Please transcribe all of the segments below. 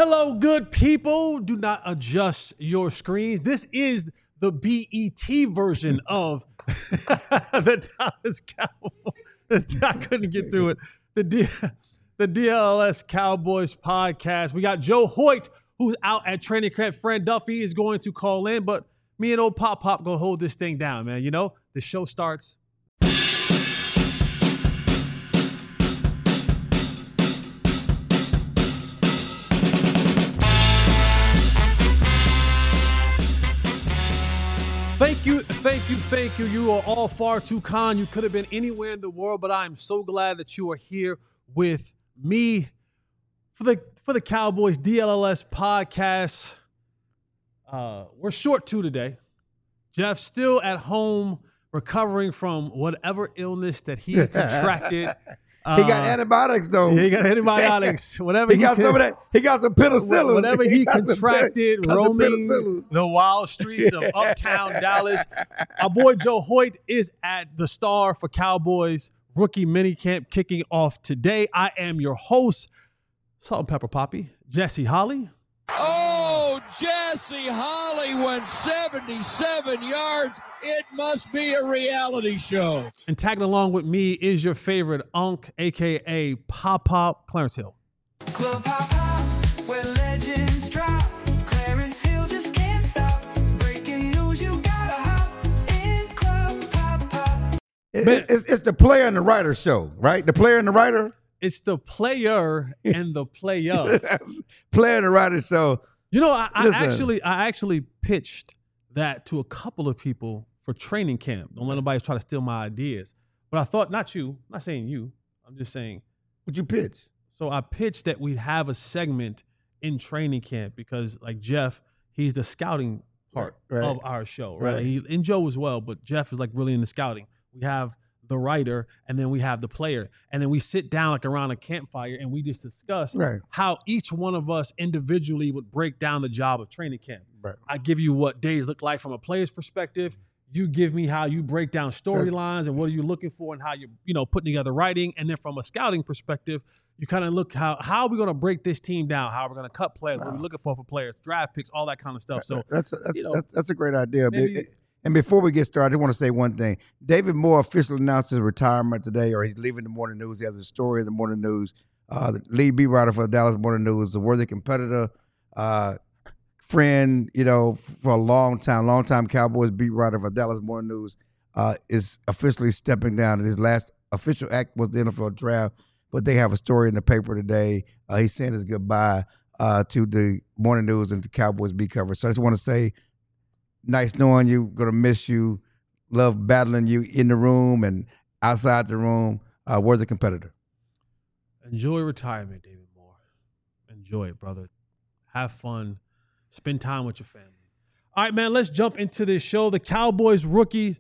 Hello, good people. Do not adjust your screens. This is the BET version of the Dallas Cowboys. I couldn't get through it. The DLS Cowboys podcast. We got Joe Hoyt, who's out at training camp. Fran Duffy is going to call in, but me and old Pop gonna hold this thing down, man. You know, the show starts. Thank you. You are all far too kind. You could have been anywhere in the world, but I'm so glad that you are here with me for the Cowboys DLS podcast. We're short two today. Jeff's still at home recovering from whatever illness that he contracted. He got antibiotics though. He got antibiotics. Whatever he got some of that. He got some penicillin. Whatever he contracted roaming the wild streets of uptown Dallas. Our boy Joe Hoyt is at the Star for Cowboys rookie minicamp kicking off today. I am your host, Salt and Pepper Poppy, Jesse Holly. Oh, Jesse Holly went 77 yards. It must be a reality show. And tagging along with me is your favorite Unc, a.k.a. Pop, Clarence Hill. Club Pop, where legends drop. Clarence Hill just can't stop. Breaking news, you gotta hop in Club Pop. It's the player and the writer show, right? The player and the writer? It's the player and the player. Player and the writer show. You know, I actually pitched that to a couple of people for training camp. Don't let nobody try to steal my ideas. But I thought, not you, I'm not saying you. I'm just saying. What'd you pitch? So I pitched that we'd have a segment in training camp because, like Jeff, he's the scouting part of our show, right? And Joe as well, but Jeff is like really in the scouting. We have the writer, and then we have the player. And then we sit down like around a campfire and we just discuss how each one of us individually would break down the job of training camp. Right. I give you what days look like from a player's perspective. You give me how you break down storylines and what are you looking for and how you're putting together writing. And then from a scouting perspective, you kind of look how are we going to break this team down? How are we going to cut players? What are we looking for players, draft picks, all that kind of stuff. So that's a great idea. And before we get started, I just want to say one thing. David Moore officially announced his retirement today, or he's leaving the Morning News. He has a story in the Morning News. The lead beat writer for the Dallas Morning News, a worthy competitor, friend, for a long time Cowboys beat writer for Dallas Morning News, is officially stepping down. And his last official act was the NFL draft, but they have a story in the paper today. He's saying his goodbye to the Morning News and the Cowboys beat coverage. So I just want to say, nice knowing you, gonna miss you, love battling you in the room and outside the room. Worthy competitor. Enjoy retirement, David Moore. Enjoy it, brother. Have fun. Spend time with your family. All right, man, let's jump into this show. The Cowboys rookies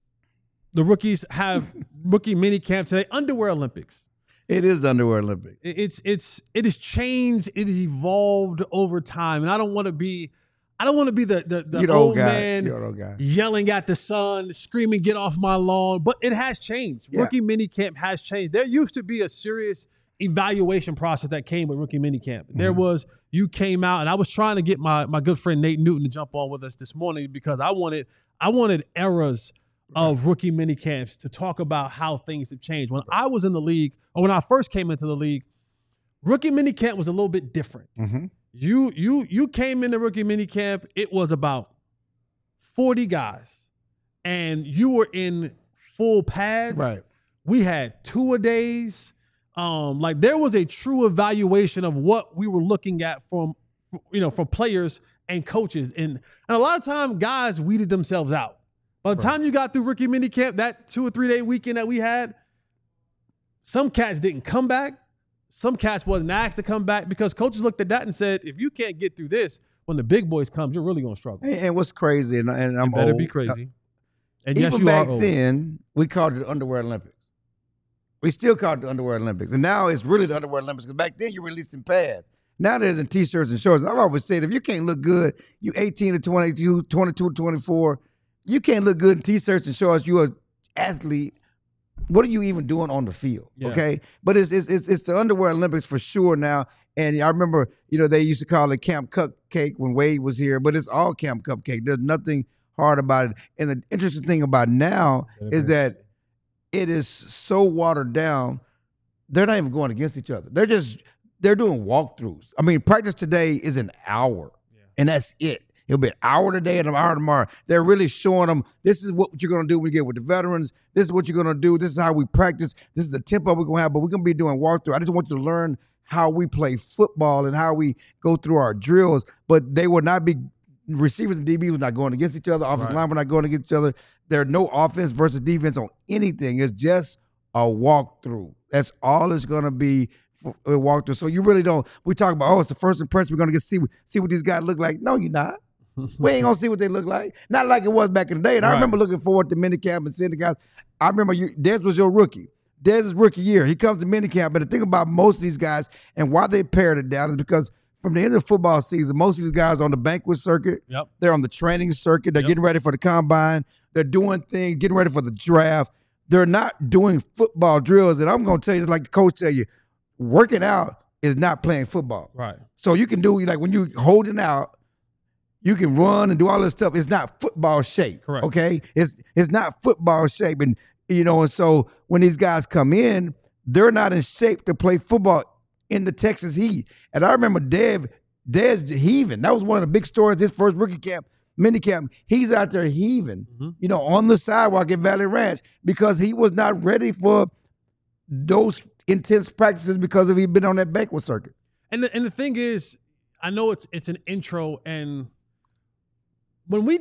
have rookie mini camp today. Underwear Olympics. It is the Underwear Olympics. It has changed. It has evolved over time, and I don't want to be the old man yelling at the sun, screaming, "Get off my lawn!" But it has changed. Yeah. Rookie minicamp has changed. There used to be a serious evaluation process that came with rookie minicamp. Mm-hmm. You came out, and I was trying to get my good friend Nate Newton to jump on with us this morning because I wanted eras of rookie minicamps to talk about how things have changed. When I was in the league, or when I first came into the league, rookie minicamp was a little bit different. Mm-hmm. You came into rookie minicamp, it was about 40 guys, and you were in full pads. Right. We had two-a-days. There was a true evaluation of what we were looking at from players and coaches. And a lot of time, guys weeded themselves out. By the time you got through rookie minicamp, that 2 or 3 day weekend that we had, some cats didn't come back. Some cats wasn't asked to come back because coaches looked at that and said, if you can't get through this, when the big boys come, you're really going to struggle. And what's crazy, and I'm better old. Be crazy. And even yes, you back are old. Then, we called it the Underwear Olympics. We still call it the Underwear Olympics. And now it's really the Underwear Olympics because back then you released in pads. Now there's in T-shirts and shorts. I've always said, if you can't look good, you 18 to 22, 22 to 24, you can't look good in T-shirts and shorts. You are athlete. What are you even doing on the field? Yeah. Okay, but it's the Underwear Olympics for sure now, And I remember, they used to call it Camp Cupcake when Wade was here, but it's all Camp Cupcake. There's nothing hard about it. And the interesting thing about now is that it is so watered down, they're not even going against each other. They're doing walkthroughs. I mean, practice today is an hour, and that's it. It'll be an hour today and an hour tomorrow. They're really showing them, this is what you're going to do when you get with the veterans. This is what you're going to do. This is how we practice. This is the tempo we're going to have, but we're going to be doing walkthrough. I just want you to learn how we play football and how we go through our drills, but they will not be, receivers and DBs were not going against each other. Offensive line were not going against each other. There's no offense versus defense on anything. It's just a walkthrough. That's all it's going to be. Walkthrough. So you really don't. We talk about, it's the first impression. We're gonna see what these guys look like. No, you're not. We ain't gonna see what they look like. Not like it was back in the day. And I remember looking forward to minicamp and seeing the guys. I remember Dez was your rookie. Dez's rookie year. He comes to minicamp. But the thing about most of these guys and why they pared it down is because from the end of the football season, most of these guys are on the banquet circuit. Yep. They're on the training circuit. They're getting ready for the combine. They're doing things, getting ready for the draft. They're not doing football drills. And I'm gonna tell you, like the coach tell you, working out is not playing football. Right. So you can do, like when you're holding out, you can run and do all this stuff. It's not football shape. Correct. Okay? It's not football shape. And, and so when these guys come in, they're not in shape to play football in the Texas heat. And I remember Dez heaving. That was one of the big stories, his first rookie camp, minicamp. He's out there heaving, on the sidewalk at Valley Ranch because he was not ready for those intense practices because he'd been on that banquet circuit. And the thing is, I know it's an intro, and when we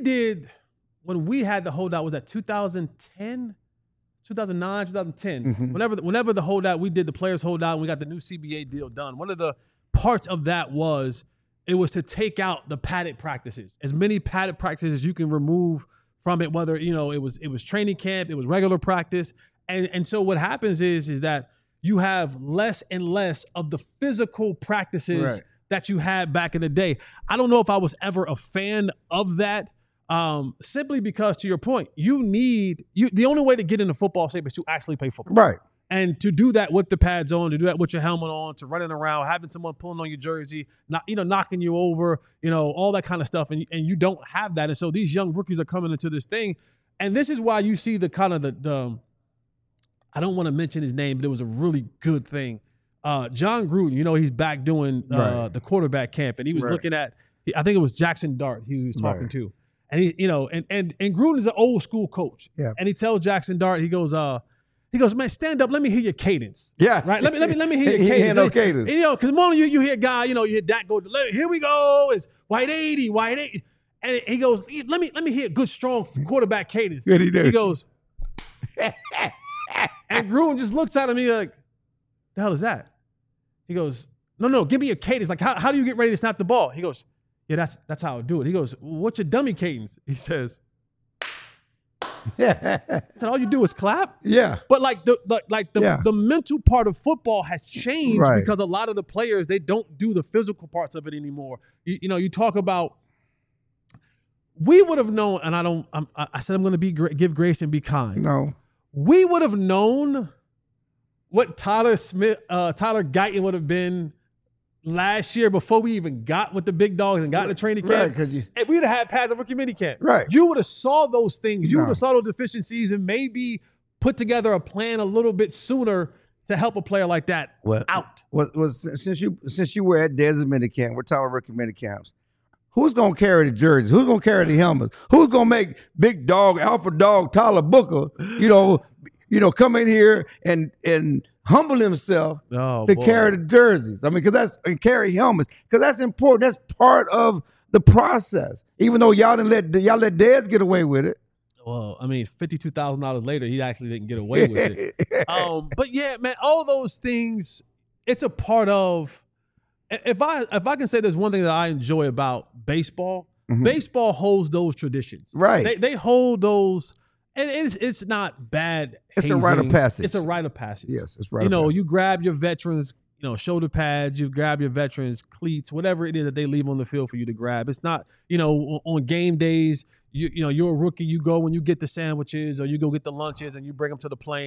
had the holdout, was that 2010, 2009, 2010? Whenever the holdout, we did the players holdout, and we got the new CBA deal done. One of the parts of that was to take out the padded practices, as many padded practices as you can remove from it. Whether it was training camp, it was regular practice, and so what happens is that you have less and less of the physical practices that you had back in the day. I don't know if I was ever a fan of that, simply because, to your point, the only way to get into football shape is to actually play football. Right. And to do that with the pads on, to do that with your helmet on, to running around, having someone pulling on your jersey, knocking you over, all that kind of stuff. And you don't have that. And so these young rookies are coming into this thing. And this is why you see the kind of the I don't want to mention his name, but it was a really good thing. John Gruden, he's back doing the quarterback camp, and he was looking at, I think it was Jackson Dart he was talking to. And he, and Gruden is an old school coach. Yeah. And he tells Jackson Dart, he goes, man, stand up. Let me hear your cadence. Yeah. Right. Let me hear your cadence. He had no cadence. Because the moment you hear a guy, you hear Dak go, here we go. It's white 80. And he goes, let me hear a good, strong quarterback cadence. What he do? He goes, and Gruden just looks at me like, the hell is that? He goes, no, give me your cadence. Like, how do you get ready to snap the ball? He goes, yeah, that's how I do it. He goes, what's your dummy cadence? He says, he said, all you do is clap? Yeah. But the mental part of football has changed because a lot of the players, they don't do the physical parts of it anymore. You talk about, we would have known, and I said I'm going to give grace and be kind. No. We would have known what Tyler Guyton would have been last year before we even got with the big dogs and got in the training camp. If we'd have had pads of rookie minicamp, you would have saw those things. You would have saw those deficiencies and maybe put together a plan a little bit sooner to help a player like that out. Since you were at Dez's minicamp, we're talking rookie minicamps. Who's going to carry the jerseys? Who's going to carry the helmets? Who's going to make big dog, alpha dog, Tyler Booker, come in here and humble himself carry the jerseys? I mean, and carry helmets, because that's important. That's part of the process. Even though y'all let Dez get away with it. Well, I mean, $52,000 later, he actually didn't get away with it. But yeah, man, all those things, it's a part of. If I can say there's one thing that I enjoy about baseball, baseball holds those traditions. Right. They hold those, and it's not bad. It's a rite of passage. It's a rite of passage. Yes, it's right. You grab your veterans, shoulder pads, you grab your veterans cleats, whatever it is that they leave on the field for you to grab. It's not, on game days, you're a rookie, you go and you get the sandwiches or you go get the lunches and you bring them to the plane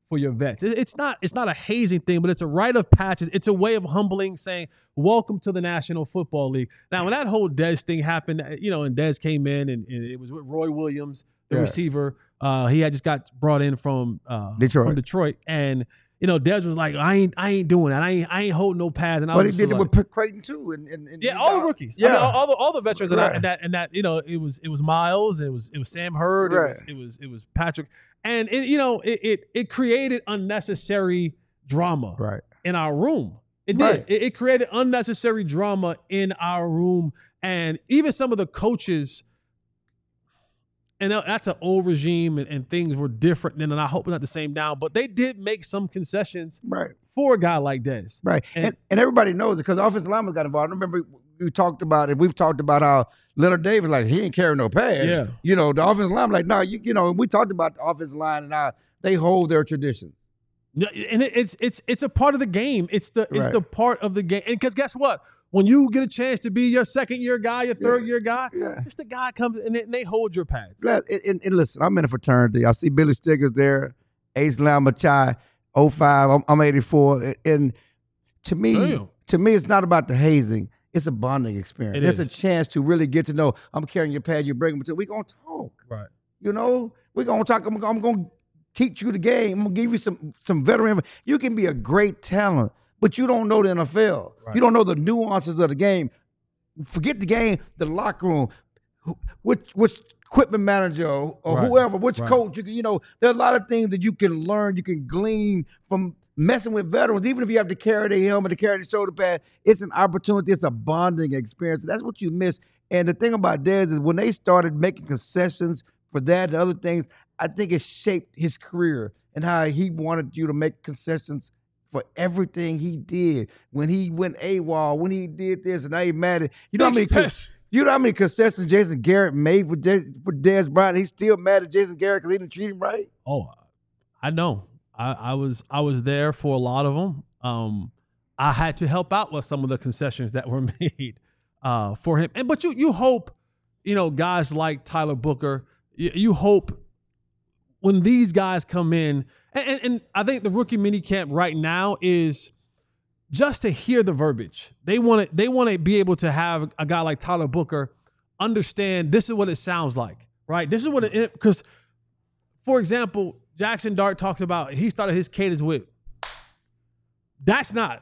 for your vets. It's not a hazing thing, but it's a rite of passage. It's a way of humbling, saying, welcome to the National Football League. Now, when that whole Dez thing happened, and Dez came in, and it was with Roy Williams, the receiver. He had just got brought in from Detroit. And, Dez was like, I ain't doing that. I ain't holding no pads. And but he did it with Creighton too. And all the rookies. Yeah. I mean, all the veterans and that, it was Miles, it was Sam Hurd, it was Patrick. And it created unnecessary drama in our room. It did. It created unnecessary drama in our room. And even some of the coaches, and that's an old regime, and things were different then, and I hope not the same now, but they did make some concessions for a guy like Dez. Right. And everybody knows it because the offensive lineman got involved. I remember we've talked about how Leonard Davis, like, he ain't carrying no pads. Yeah. The offensive lineman, like, no, we talked about the offensive line and how they hold their tradition. Yeah, and it's a part of the game. It's the part of the game. And because guess what? When you get a chance to be your second-year guy, your third-year guy, it's the guy comes and they hold your pads. And listen, I'm in a fraternity. I see Billy Stiggers there, Ace Lamachai, 05. I'm 84. And to me, it's not about the hazing. It's a bonding experience. There's a chance to really get to know. I'm carrying your pad. You bring them to. We're going to talk. Right. We're going to talk. I'm going to teach you the game. I'm going to give you some veteran. You can be a great talent, but you don't know the NFL. Right. You don't know the nuances of the game. Forget the game, the locker room, which equipment manager or whoever, which coach. There are a lot of things that you can learn, you can glean from messing with veterans. Even if you have to carry the helmet, to carry the shoulder pad, it's an opportunity. It's a bonding experience. That's what you miss. And the thing about Dez is when they started making concessions for that and other things, I think it shaped his career and how he wanted you to make concessions for everything he did. When he went AWOL, when he did this, and now he's mad at you know how many concessions Jason Garrett made for Dez Bryant? He's still mad at Jason Garrett because he didn't treat him right. Oh, I know. I was there for a lot of them. I had to help out with some of the concessions that were made for him. But you hope, guys like Tyler Booker, you hope when these guys come in, and I think the rookie minicamp right now is just to hear the verbiage. They want to be able to have a guy like Tyler Booker understand this is what it sounds like, right? This is what it, because, for example, Jackson Dart talks about he started his cadence with, that's not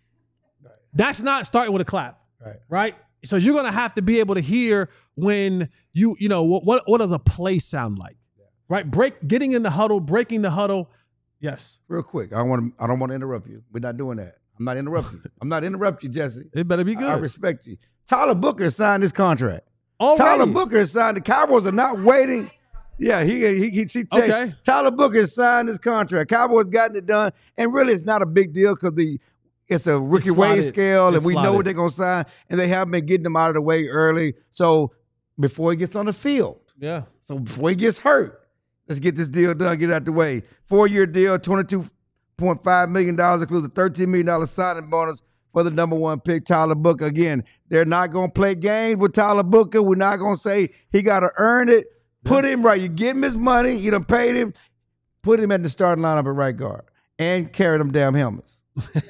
starting with a clap, right? So you're going to have to be able to hear when what does a play sound like? Right, getting in the huddle, breaking the huddle. Yes. Real quick, I don't want to interrupt you. We're not doing that. I'm not interrupting you. I'm not interrupting you, Jesse. It better be good. I respect you. Tyler Booker signed his contract. Already? Tyler Booker signed. The Cowboys are not waiting. Yeah, okay. Tyler Booker signed his contract. Cowboys gotten it done, and really, it's not a big deal because it's a rookie wage scale, and we know what they're gonna sign, and they haven't been getting them out of the way early. So before he gets on the field, So before he gets hurt. Let's get this deal done, get it out the way. 4-year deal, $22.5 million, includes a $13 million signing bonus for the number one pick, Tyler Booker. Again, they're not going to play games with Tyler Booker. We're not going to say he got to earn it. Put him right. You give him his money. You done paid him. Put him at the starting lineup at right guard and carry them damn helmets.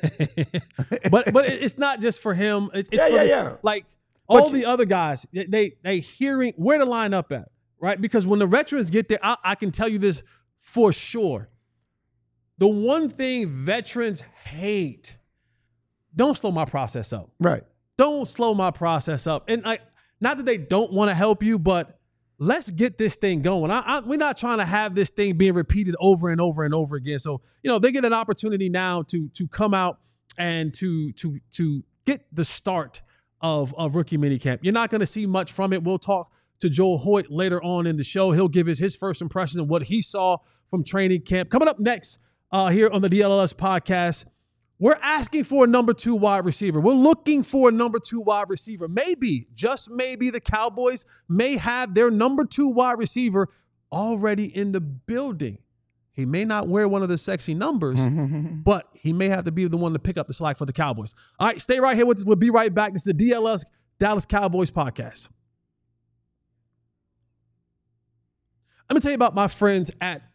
but it's not just for him. It's for like all the other guys, they hearing where to line up at. Right? Because when the veterans get there, I can tell you this for sure. The one thing veterans hate, don't slow my process up. Right. Don't slow my process up. And not that they don't want to help you, but let's get this thing going. We're not trying to have this thing being repeated over and over and over again. So, they get an opportunity now to come out and to get the start of rookie minicamp. You're not going to see much from it. We'll talk to Joel Hoyt later on in the show. He'll give his first impressions of what he saw from training camp. Coming up next here on the DLLS podcast, we're asking for a number 2 wide receiver. We're looking for a number 2 wide receiver. Maybe, just maybe, the Cowboys may have their number 2 wide receiver already in the building. He may not wear one of the sexy numbers, but he may have to be the one to pick up the slack for the Cowboys. All right, stay right here with us. We'll be right back. This is the DLS Dallas Cowboys podcast. Let me tell you about my friends at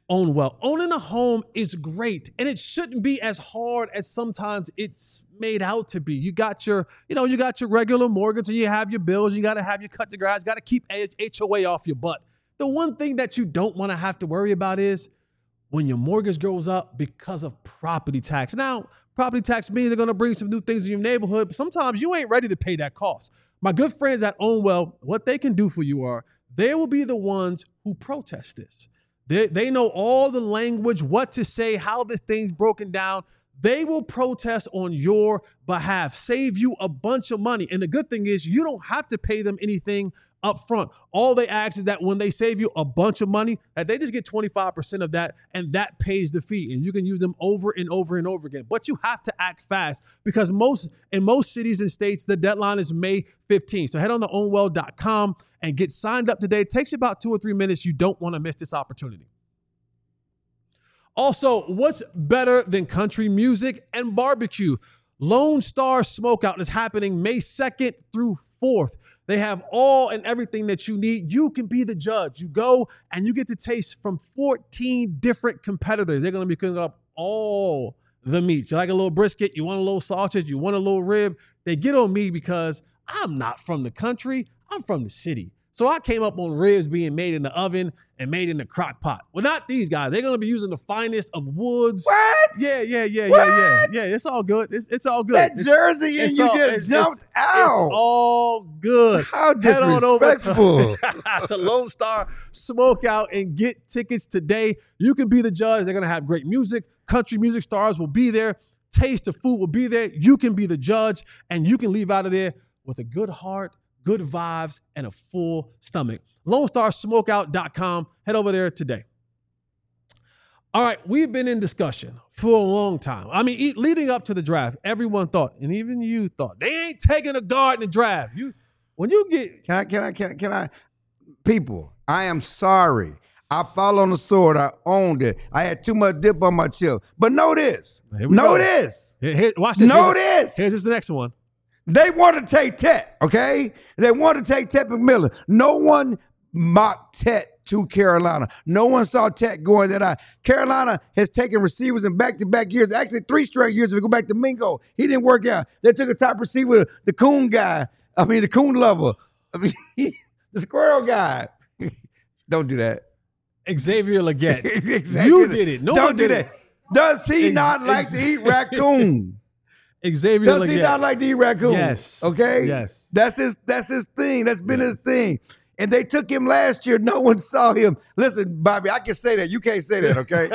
own well. Owning a home is great, and it shouldn't be as hard as sometimes it's made out to be. You got your regular mortgage, and you have your bills. You got to have your cut to grass. You got to keep HOA off your butt. The one thing that you don't want to have to worry about is when your mortgage goes up because of property tax. Now, property tax means they're going to bring some new things in your neighborhood, but sometimes you ain't ready to pay that cost. My good friends at Own Well, what they can do for you are they will be the ones who protest this. They know all the language, what to say, how this thing's broken down. They will protest on your behalf, save you a bunch of money. And the good thing is you don't have to pay them anything up front. All they ask is that when they save you a bunch of money, that they just get 25% of that, and that pays the fee. And you can use them over and over and over again. But you have to act fast because in most cities and states, the deadline is May 15th. So head on to ownwell.com and get signed up today. It takes you about 2 or 3 minutes. You don't want to miss this opportunity. Also, what's better than country music and barbecue? Lone Star Smokeout is happening May 2nd through 4th. They have all and everything that you need. You can be the judge. You go and you get to taste from 14 different competitors. They're going to be cooking up all the meat. You like a little brisket? You want a little sausage? You want a little rib? They get on me because I'm not from the country. I'm from the city. So I came up on ribs being made in the oven and made in the crock pot. Well, not these guys. They're going to be using the finest of woods. What? Yeah. What? Yeah, it's all good. It's all good. That jersey and you just jumped out. It's all good. How Head on over to Lone Star Smokeout and get tickets today. You can be the judge. They're going to have great music. Country music stars will be there. Taste of food will be there. You can be the judge, and you can leave out of there with a good heart, good vibes, and a full stomach. LoneStarSmokeout.com. Head over there today. All right, we've been in discussion for a long time. I mean, leading up to the draft, everyone thought, and even you thought, they ain't taking a guard in the draft. Can I? People, I am sorry. I fell on the sword. I owned it. I had too much dip on my chip. But know this. This. Watch this. This. Here's the next one. They want to take Tet, okay? They want to take Tet McMillan. No one mocked Tet to Carolina. No one saw Tet going that high. Carolina has taken receivers in back-to-back years, actually 3 straight years if we go back to Mingo. He didn't work out. They took a top receiver, the Coon guy. The Coon lover. The squirrel guy. Don't do that. Xavier Legette. Exactly. You did it. Don't do that. Does he not like to eat raccoon? Xavier Legette. Does he not like to eat raccoon? Yes. Okay? Yes. That's his thing. That's been his thing. And they took him last year. No one saw him. Listen, Bobby, I can say that. You can't say that, okay?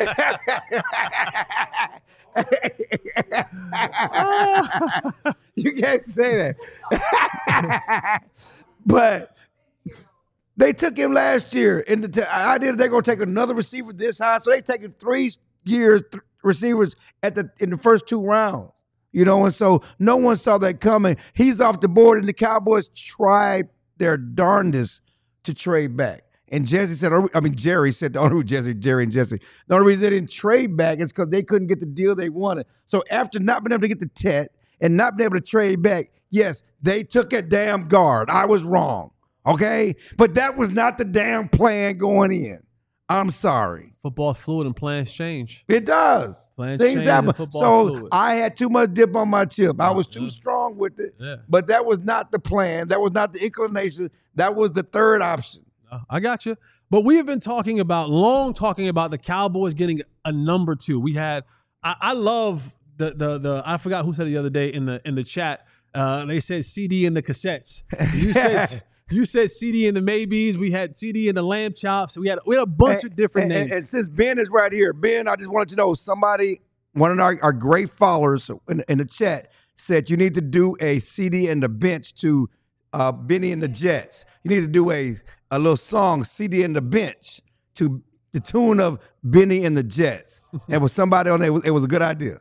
You can't say that. But they took him last year. And the idea that they're going to take another receiver this high. So they taking 3 years receivers in the first 2 rounds. And so no one saw that coming. He's off the board, and the Cowboys tried their darndest to trade back. And Jerry said, the only reason Jerry and Jesse, the only reason they didn't trade back is because they couldn't get the deal they wanted. So after not being able to get the Tet and not being able to trade back, yes, they took a damn guard. I was wrong, okay? But that was not the damn plan going in. I'm sorry. Football's fluid and plans change. It does. Things happen. So I had too much dip on my chip. I was too strong with it. Yeah. But that was not the plan. That was not the inclination. That was the third option. I got you. But we have been talking about the Cowboys getting a number 2. We had I love the I forgot who said it the other day in the chat. They said CD in the cassettes. You said CD in the maybes. We had CD in the lamb chops. We had a bunch of different names. And since Ben is right here, Ben, I just wanted to know, one of our great followers in the chat said you need to do a CD in the bench to Benny and the Jets. You need to do a little song, CD in the bench, to the tune of Benny and the Jets. And with somebody on there, it was a good idea.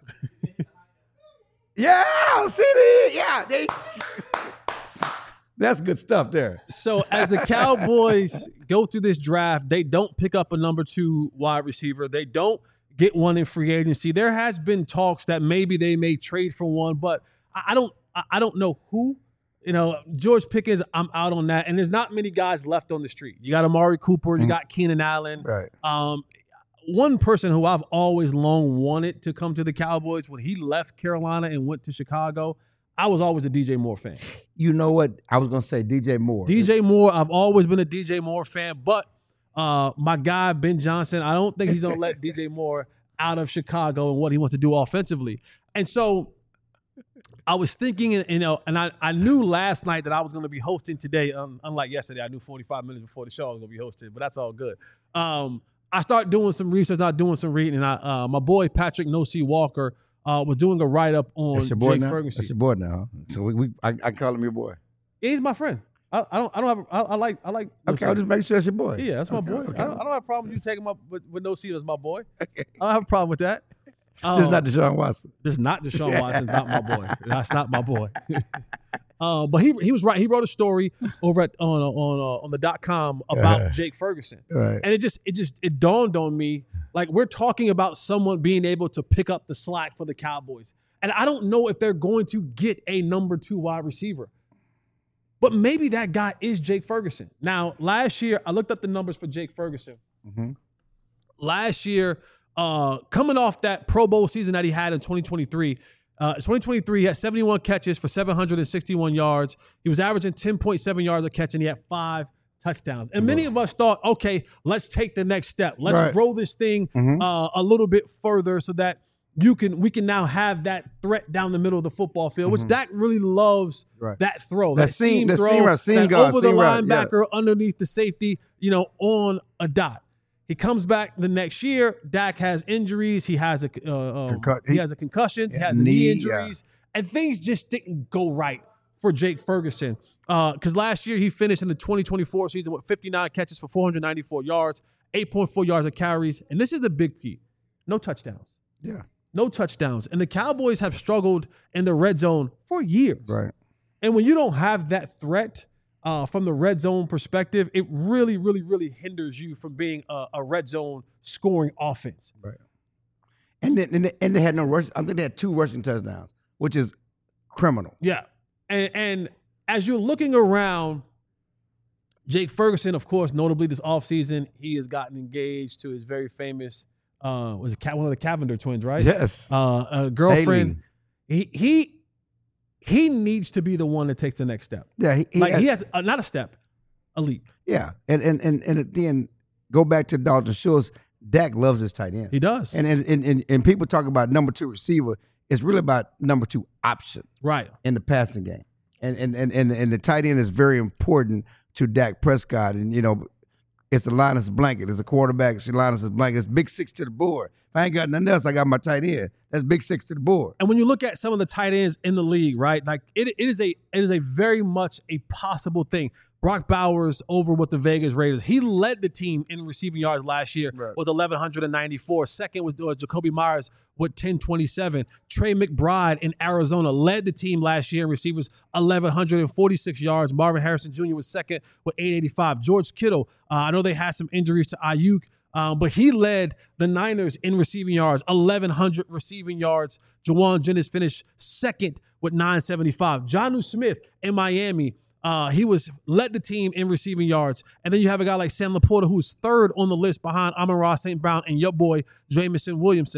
Yeah, CD. Yeah, that's good stuff there. So as the Cowboys go through this draft, they don't pick up a number 2 wide receiver. They don't get one in free agency. There has been talks that maybe they may trade for one, but I don't know who. George Pickens, I'm out on that. And there's not many guys left on the street. You got Amari Cooper, you got Keenan Allen. Right. one person who I've always long wanted to come to the Cowboys, when he left Carolina and went to Chicago, I was always a DJ Moore fan. You know what? I was going to say DJ Moore. DJ Moore, I've always been a DJ Moore fan, but my guy, Ben Johnson, I don't think he's going to let DJ Moore out of Chicago and what he wants to do offensively. And so I was thinking, and I knew last night that I was going to be hosting today. Unlike yesterday, I knew 45 minutes before the show I was going to be hosting, but that's all good. I started doing some research, doing some reading, and my boy Patrick No-C Walker was doing a write-up on Jake Ferguson. That's your boy now. So I call him your boy. Yeah, he's my friend. I like. Okay, I'll just make sure it's your boy. Yeah, that's my boy. Okay. I don't have a problem with you taking with No-C as my boy. I don't have a problem with that. This is not Deshaun Watson. This is not Deshaun Watson. Not my boy. That's not my boy. But he was right. He wrote a story over on the .com about Jake Ferguson, right. And it dawned on me, like, we're talking about someone being able to pick up the slack for the Cowboys, and I don't know if they're going to get a number 2 wide receiver, but maybe that guy is Jake Ferguson. Now, last year I looked up the numbers for Jake Ferguson. Mm-hmm. Last year, coming off that Pro Bowl season that he had in 2023. 2023, he had 71 catches for 761 yards. He was averaging 10.7 yards a catch, and he had 5 touchdowns. And many of us thought, okay, let's take the next step. Let's grow this thing a little bit further so that we can now have that threat down the middle of the football field, which Dak really loves that throw. That seam throw, over the linebacker, underneath the safety, on a dot. He comes back the next year. Dak has injuries. He has a concussion. He has knee injuries, and things just didn't go right for Jake Ferguson. Because last year he finished in the 2024 season with 59 catches for 494 yards, 8.4 yards of carries, and this is the big key: no touchdowns. Yeah, no touchdowns. And the Cowboys have struggled in the red zone for years. Right. And when you don't have that threat. From the red zone perspective, it really, really, really hinders you from being a red zone scoring offense. Right. And they had no rush. I think they had 2 rushing touchdowns, which is criminal. Yeah. And as you're looking around, Jake Ferguson, of course, notably this offseason, he has gotten engaged to his very famous, one of the Cavender twins, right? Yes. Girlfriend. Haley. He needs to be the one that takes the next step. Yeah, he has not a step, a leap. Yeah, and then go back to Dalton Schultz. Dak loves his tight end. He does. And people talk about number 2 receiver. It's really about number 2 option, right, in the passing game. And the tight end is very important to Dak Prescott. And it's the Linus blanket. It's a quarterback. It's Linus blanket. It's big 6 to the board. If I ain't got nothing else, I got my tight end. That's big 6 to the board. And when you look at some of the tight ends in the league, right, like it is a very much a possible thing. Brock Bowers over with the Vegas Raiders. He led the team in receiving yards last year with 1,194. Second was Jacoby Myers with 1,027. Trey McBride in Arizona led the team last year in receivers, 1,146 yards. Marvin Harrison Jr. was second with 885. George Kittle, I know they had some injuries to Ayuk, but he led the Niners in receiving yards, 1,100 receiving yards. Jawan Jennings finished second with 975. Jonnu Smith in Miami, he led the team in receiving yards. And then you have a guy like Sam Laporta, who's third on the list behind Amon-Ra St. Brown and your boy Jameson Williams.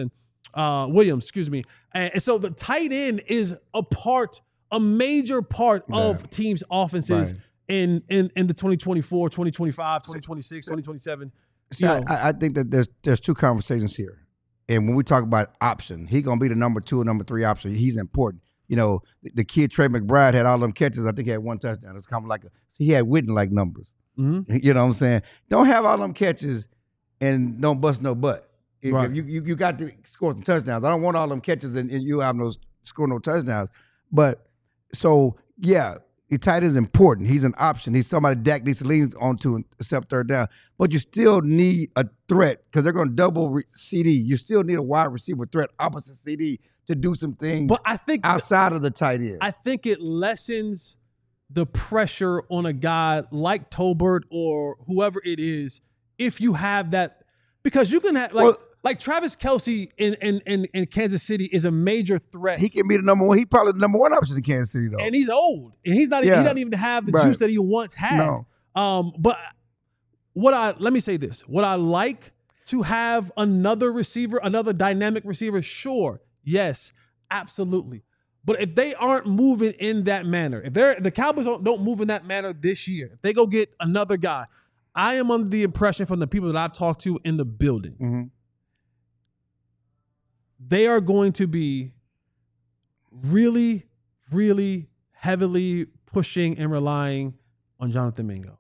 And so the tight end is a major part of teams' offenses in the 2024, 2025, 2026, 2027. So I think that there's 2 conversations here. And when we talk about option, he's going to be the number 2 or number 3 option. He's important. The kid Trey McBride had all them catches. I think he had 1 touchdown. It's kind of like he had Witten-like numbers. Mm-hmm. You know what I'm saying? Don't have all them catches and don't bust no butt. Right. You got to score some touchdowns. I don't want all them catches and you have score no touchdowns. But so, yeah, the tight end is important. He's an option. He's somebody Dak needs to lean onto and accept third down. But you still need a threat because they're going to double CD. You still need a wide receiver threat opposite CD to do some things, but I think outside of the tight end. I think it lessens the pressure on a guy like Tolbert or whoever it is if you have that, because you can have like Travis Kelce in Kansas City is a major threat. He can be the number 1. He's probably the number 1 option in Kansas City though, and he's old and he doesn't even have the juice that he once had. No. But let me say this: what I like to have another receiver, another dynamic receiver? Sure. Yes, absolutely. But if they aren't moving in that manner, if the Cowboys don't move in that manner this year, if they go get another guy, I am under the impression from the people that I've talked to in the building, they are going to be really, really heavily pushing and relying on Jonathan Mingo.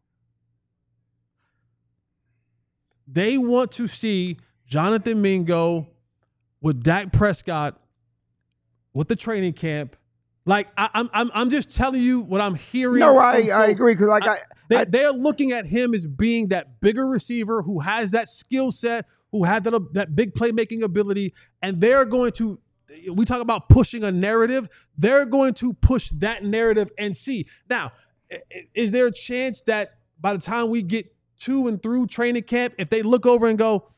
They want to see Jonathan Mingo with Dak Prescott with the training camp. Like I'm just telling you what I'm hearing. No, I agree, because they're looking at him as being that bigger receiver who has that skill set, who had that big playmaking ability, and they're going to. We talk about pushing a narrative. They're going to push that narrative and see. Now, is there a chance that by the time we get to and through training camp, if they look over and go,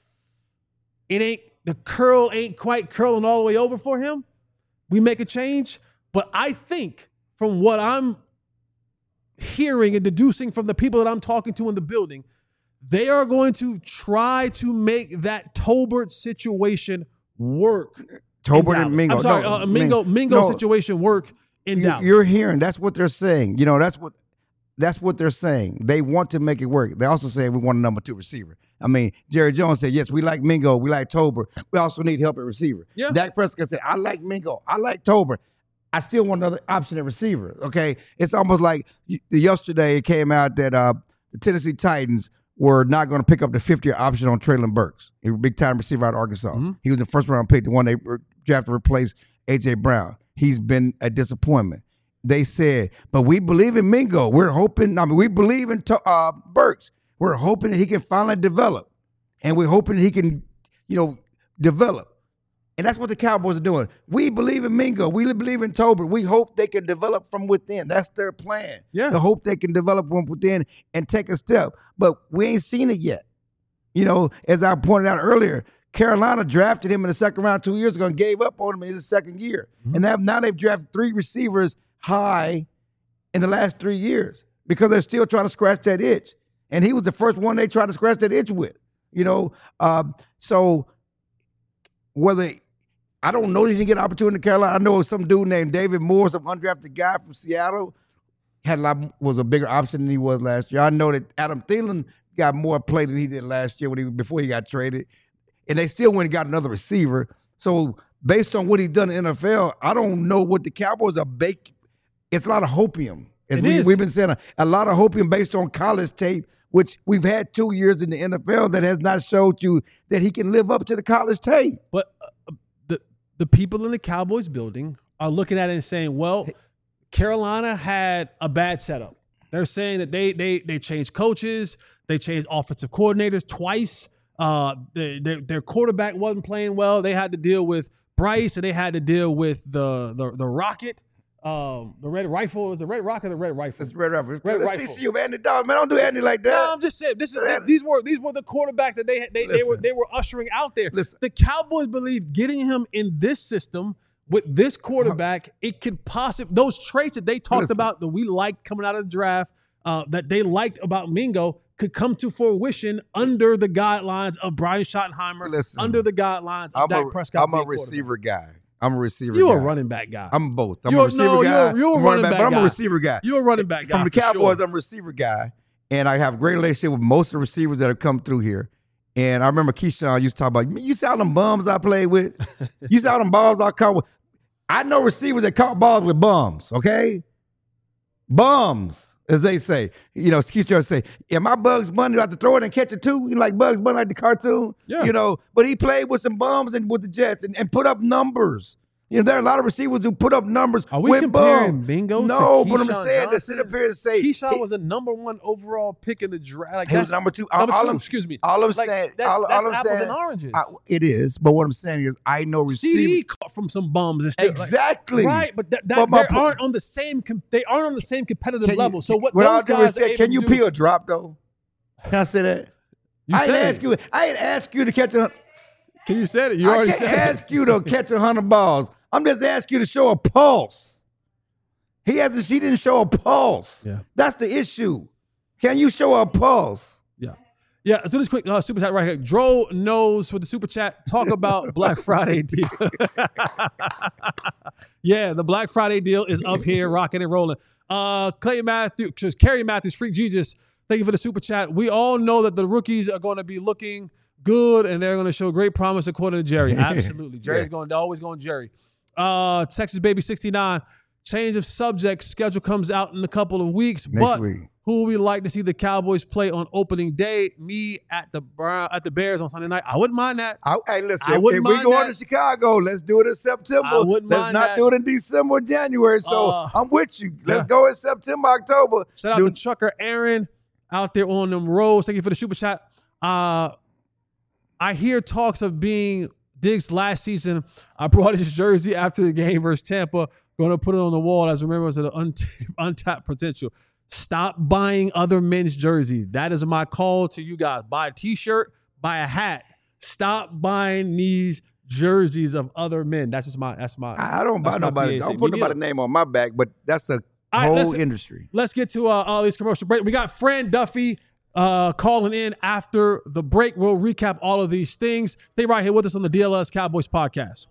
the curl ain't quite curling all the way over for him, we make a change? But I think from what I'm hearing and deducing from the people that I'm talking to in the building, they are going to try to make that Tolbert situation work. Tolbert and Mingo. I'm sorry, Mingo situation work in Dallas. You're hearing. That's what they're saying. You know, that's what they're saying. They want to make it work. They also say we want a number 2 receiver. I mean, Jerry Jones said, yes, we like Mingo. We like Tolbert. We also need help at receiver. Yeah. Dak Prescott said, I like Mingo. I like Tolbert. I still want another option at receiver. Okay. It's almost like yesterday it came out that the Tennessee Titans were not going to pick up the 50-year option on Treylon Burks, a big-time receiver out of Arkansas. Mm-hmm. He was the first-round pick, the one they drafted to replace A.J. Brown. He's been a disappointment. They said, but we believe in Mingo. We're hoping, we believe in Burks. We're hoping that he can finally develop. And we're hoping that he can, develop. And that's what the Cowboys are doing. We believe in Mingo. We believe in Tolbert. We hope they can develop from within. That's their plan. Yeah. To hope they can develop from within and take a step. But we ain't seen it yet. As I pointed out earlier, Carolina drafted him in the second round 2 years ago and gave up on him in his second year. Mm-hmm. And now they've drafted 3 receivers high in the last 3 years because they're still trying to scratch that itch. And he was the first one they tried to scratch that itch with. So whether I don't know that he can get an opportunity in Carolina. I know some dude named David Moore, some undrafted guy from Seattle, was a bigger option than he was last year. I know that Adam Thielen got more play than he did last year before he got traded. And they still went and got another receiver. So based on what he's done in the NFL, I don't know what the Cowboys are baking. It's a lot of hopium. We've been saying a lot of hopium based on college tape, which we've had 2 years in the NFL that has not showed you that he can live up to the college tape. But the people in the Cowboys building are looking at it and saying, well, Carolina had a bad setup. They're saying that they changed coaches, they changed offensive coordinators twice. Their quarterback wasn't playing well. They had to deal with Bryce, and they had to deal with the Rocket, the Red Rifle. Was the Red Rocket or the Red Rifle? It's Red Rifle. Red Rifle. TCU, Andy Dalton. Man, don't do Andy like that. No, I'm just saying these were the quarterbacks that they were ushering out there. Listen. The Cowboys believe getting him in this system with this quarterback, it could possibly those traits that they talked about that we liked coming out of the draft, that they liked about Mingo, could come to fruition under the guidelines of Brian Schottenheimer, under the guidelines of Dak Prescott. I'm a receiver guy. You're a running back guy. I'm both. I'm a receiver guy. You're a running back guy. But I'm a receiver guy. You're a running back guy. From the Cowboys, I'm a receiver guy. And I have a great relationship with most of the receivers that have come through here. And I remember Keyshawn used to talk about, you see all them bums I played with? You see all them balls I caught with? I know receivers that caught balls with bums, okay? Bums, as they say. Keyshawn say, yeah, my Bugs Bunny, do I have to throw it and catch it too? You like Bugs Bunny, like the cartoon? Yeah. But he played with some bums and with the Jets and put up numbers. There are a lot of receivers who put up numbers. Are we comparing Bingo to Keyshawn but I'm saying to sit up here and say Keyshawn was the number 1 overall pick in the draft. Like he was number 2. Excuse me. All I'm saying, that's apples and oranges. It is, but what I'm saying is, I know receivers. CD caught from some bums and stuff. Exactly. Right, but they aren't on the same. They aren't on the same competitive level. So what those guys are able can you to do, peel a drop though? Can I say that? I didn't ask you to catch a. Can you say it? You already said it. I can't ask you to catch 100 balls. I'm just asking you to show a pulse. He didn't show a pulse. Yeah. That's the issue. Can you show a pulse? Yeah. Yeah, let's do this quick super chat right here. Dro knows with the super chat. Talk about Black Friday deal. Yeah, the Black Friday deal is up here, rocking and rolling. Clay Matthews, Kerry Matthews, Freak Jesus. Thank you for the super chat. We all know that the rookies are going to be looking good and they're going to show great promise according to Jerry. Absolutely. Jerry's always going Jerry. Texas Baby 69. Change of subject. Schedule comes out in a couple of weeks. Next week. Who would we like to see the Cowboys play on opening day? Me at the Bears on Sunday night. I wouldn't mind that. Hey, listen, if we go to Chicago, let's do it in September. I wouldn't mind Let's not do it in December or January. So I'm with you. Let's go in September, October. Shout out to Trucker Aaron out there on them roads. Thank you for the super chat. I hear talks of being Diggs last season. I brought his jersey after the game versus Tampa. Going to put it on the wall as remembrance of the untapped potential. Stop buying other men's jerseys. That is my call to you guys. Buy a T-shirt, buy a hat. Stop buying these jerseys of other men. That's my. I don't buy nobody. Don't put nobody's name on my back. But that's a whole industry. Let's get to all these commercial breaks. We got Fran Duffy calling in after the break. We'll recap all of these things. Stay right here with us on the DLS Cowboys podcast.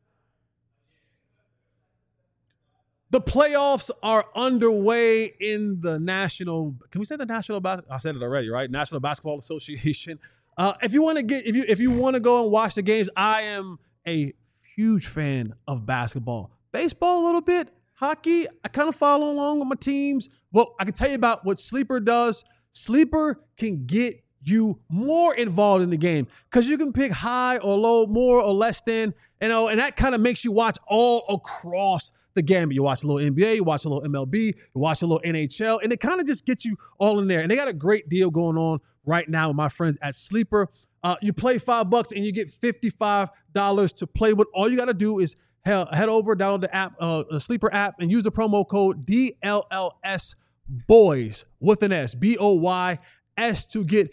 The playoffs are underway in the National. Can we say the National? I said it already, right? National Basketball Association. If you want to go and watch the games, I am a huge fan of basketball, baseball a little bit, hockey. I kind of follow along with my teams. Well, I can tell you about what Sleeper does. Sleeper can get you more involved in the game because you can pick high or low, more or less than, and that kind of makes you watch all across the gamut. You watch a little NBA, you watch a little MLB, you watch a little NHL, and it kind of just gets you all in there. And they got a great deal going on right now with my friends at Sleeper. You play $5 and you get $55 to play with. All you got to do is head over, download the app, the Sleeper app, and use the promo code DLLS Boys with an S, BOYS, to get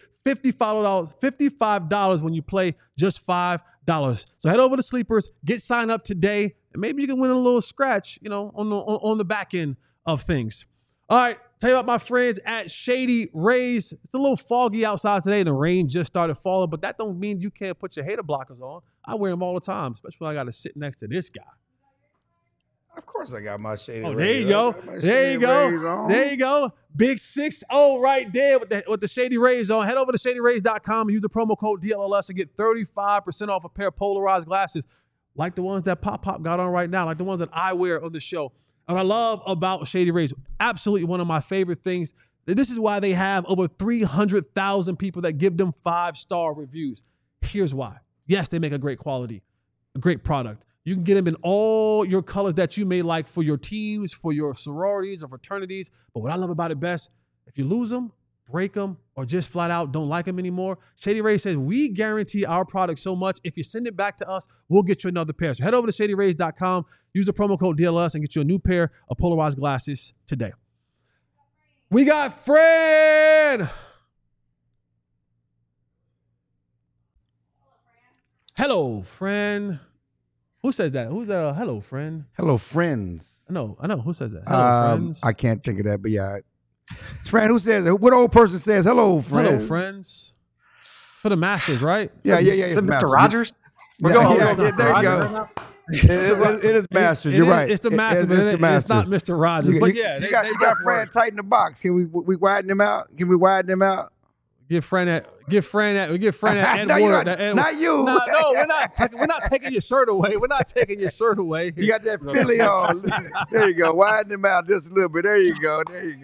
$55 when you play just $5. So head over to Sleepers, get signed up today, and maybe you can win a little scratch, on the back end of things. All right, tell you about my friends at Shady Rays. It's a little foggy outside today, and the rain just started falling, but that don't mean you can't put your hater blockers on. I wear them all the time, especially when I got to sit next to this guy. Of course I got my Shady Rays. There you go. There you go. There you go. Big 6-0 right there with the Shady Rays on. Head over to ShadyRays.com and use the promo code DLLS and get 35% off a pair of polarized glasses like the ones that Pop got on right now, like the ones that I wear on the show. And what I love about Shady Rays, absolutely one of my favorite things, this is why they have over 300,000 people that give them 5-star reviews. Here's why. Yes, they make a great quality, a great product. You can get them in all your colors that you may like for your teams, for your sororities or fraternities. But what I love about it best, if you lose them, break them, or just flat out don't like them anymore, Shady Rays says, we guarantee our product so much. If you send it back to us, we'll get you another pair. So head over to ShadyRays.com, use the promo code DLS, and get you a new pair of polarized glasses today. We got Fran. Hello, Fran. Who says that? Who's that? Hello, friend. Hello, friends. I know. Who says that? Hello, friends. I can't think of that, but yeah. It's Fran. Who says it? What old person says hello, friends? Hello, friends. For the Masters, right? Yeah. Is it Mr. Rogers? We're going there you go. It is Masters. You're right. It's the Masters. It's not Mr. Rogers. But yeah, you got Fran tight in the box. Can we widen him out? Give Fran that Ed Wood. Not you. No, we're not taking your shirt away. We're not taking your shirt away. You got that Philly on. There you go. Widen him out just a little bit. There you go.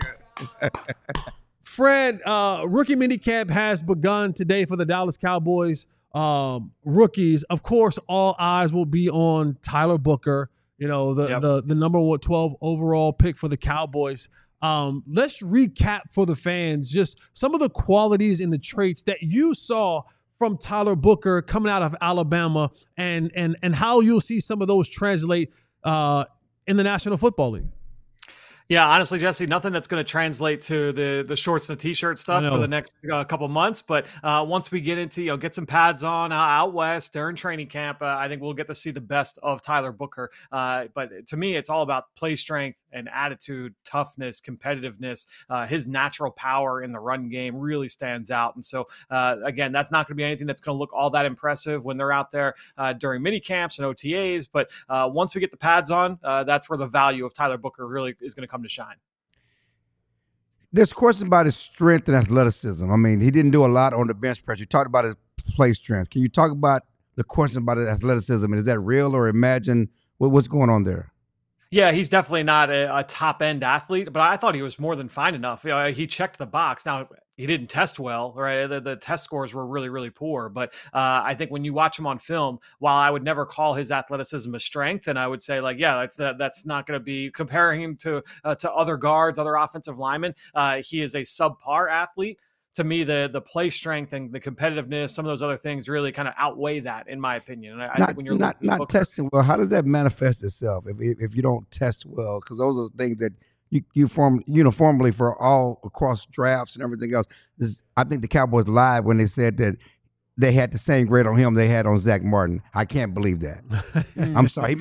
Fran, rookie minicamp has begun today for the Dallas Cowboys rookies. Of course, all eyes will be on Tyler Booker, the number 12 overall pick for the Cowboys. Let's recap for the fans just some of the qualities and the traits that you saw from Tyler Booker coming out of Alabama and how you'll see some of those translate in the National Football League. Yeah, honestly, Jesse, nothing that's going to translate to the shorts and the t-shirt stuff for the next couple months. But once we get into, get some pads on out west during training camp, I think we'll get to see the best of Tyler Booker. But to me, it's all about play strength and attitude, toughness, competitiveness. His natural power in the run game really stands out. And so, again, that's not going to be anything that's going to look all that impressive when they're out there during mini camps and OTAs. But once we get the pads on, that's where the value of Tyler Booker really is going to come to shine. There's questions about his strength and athleticism. I mean, he didn't do a lot on the bench press. You talked about his play strength. Can you talk about the question about his athleticism? And is that real or imagined? What's going on there? Yeah, he's definitely not a top-end athlete, but I thought he was more than fine enough. He checked the box. Now, he didn't test well, right? The test scores were really, really poor. But I think when you watch him on film, while I would never call his athleticism a strength, and I would say, that's not going to be comparing him to other guards, other offensive linemen. He is a subpar athlete. To me, the play strength and the competitiveness, some of those other things really kind of outweigh that, in my opinion. And I think when you're not testing well, how does that manifest itself if you don't test well? Because those are things that you form uniformly for all across drafts and everything else. I think the Cowboys lied when they said that they had the same grade on him they had on Zach Martin. I can't believe that. I'm sorry.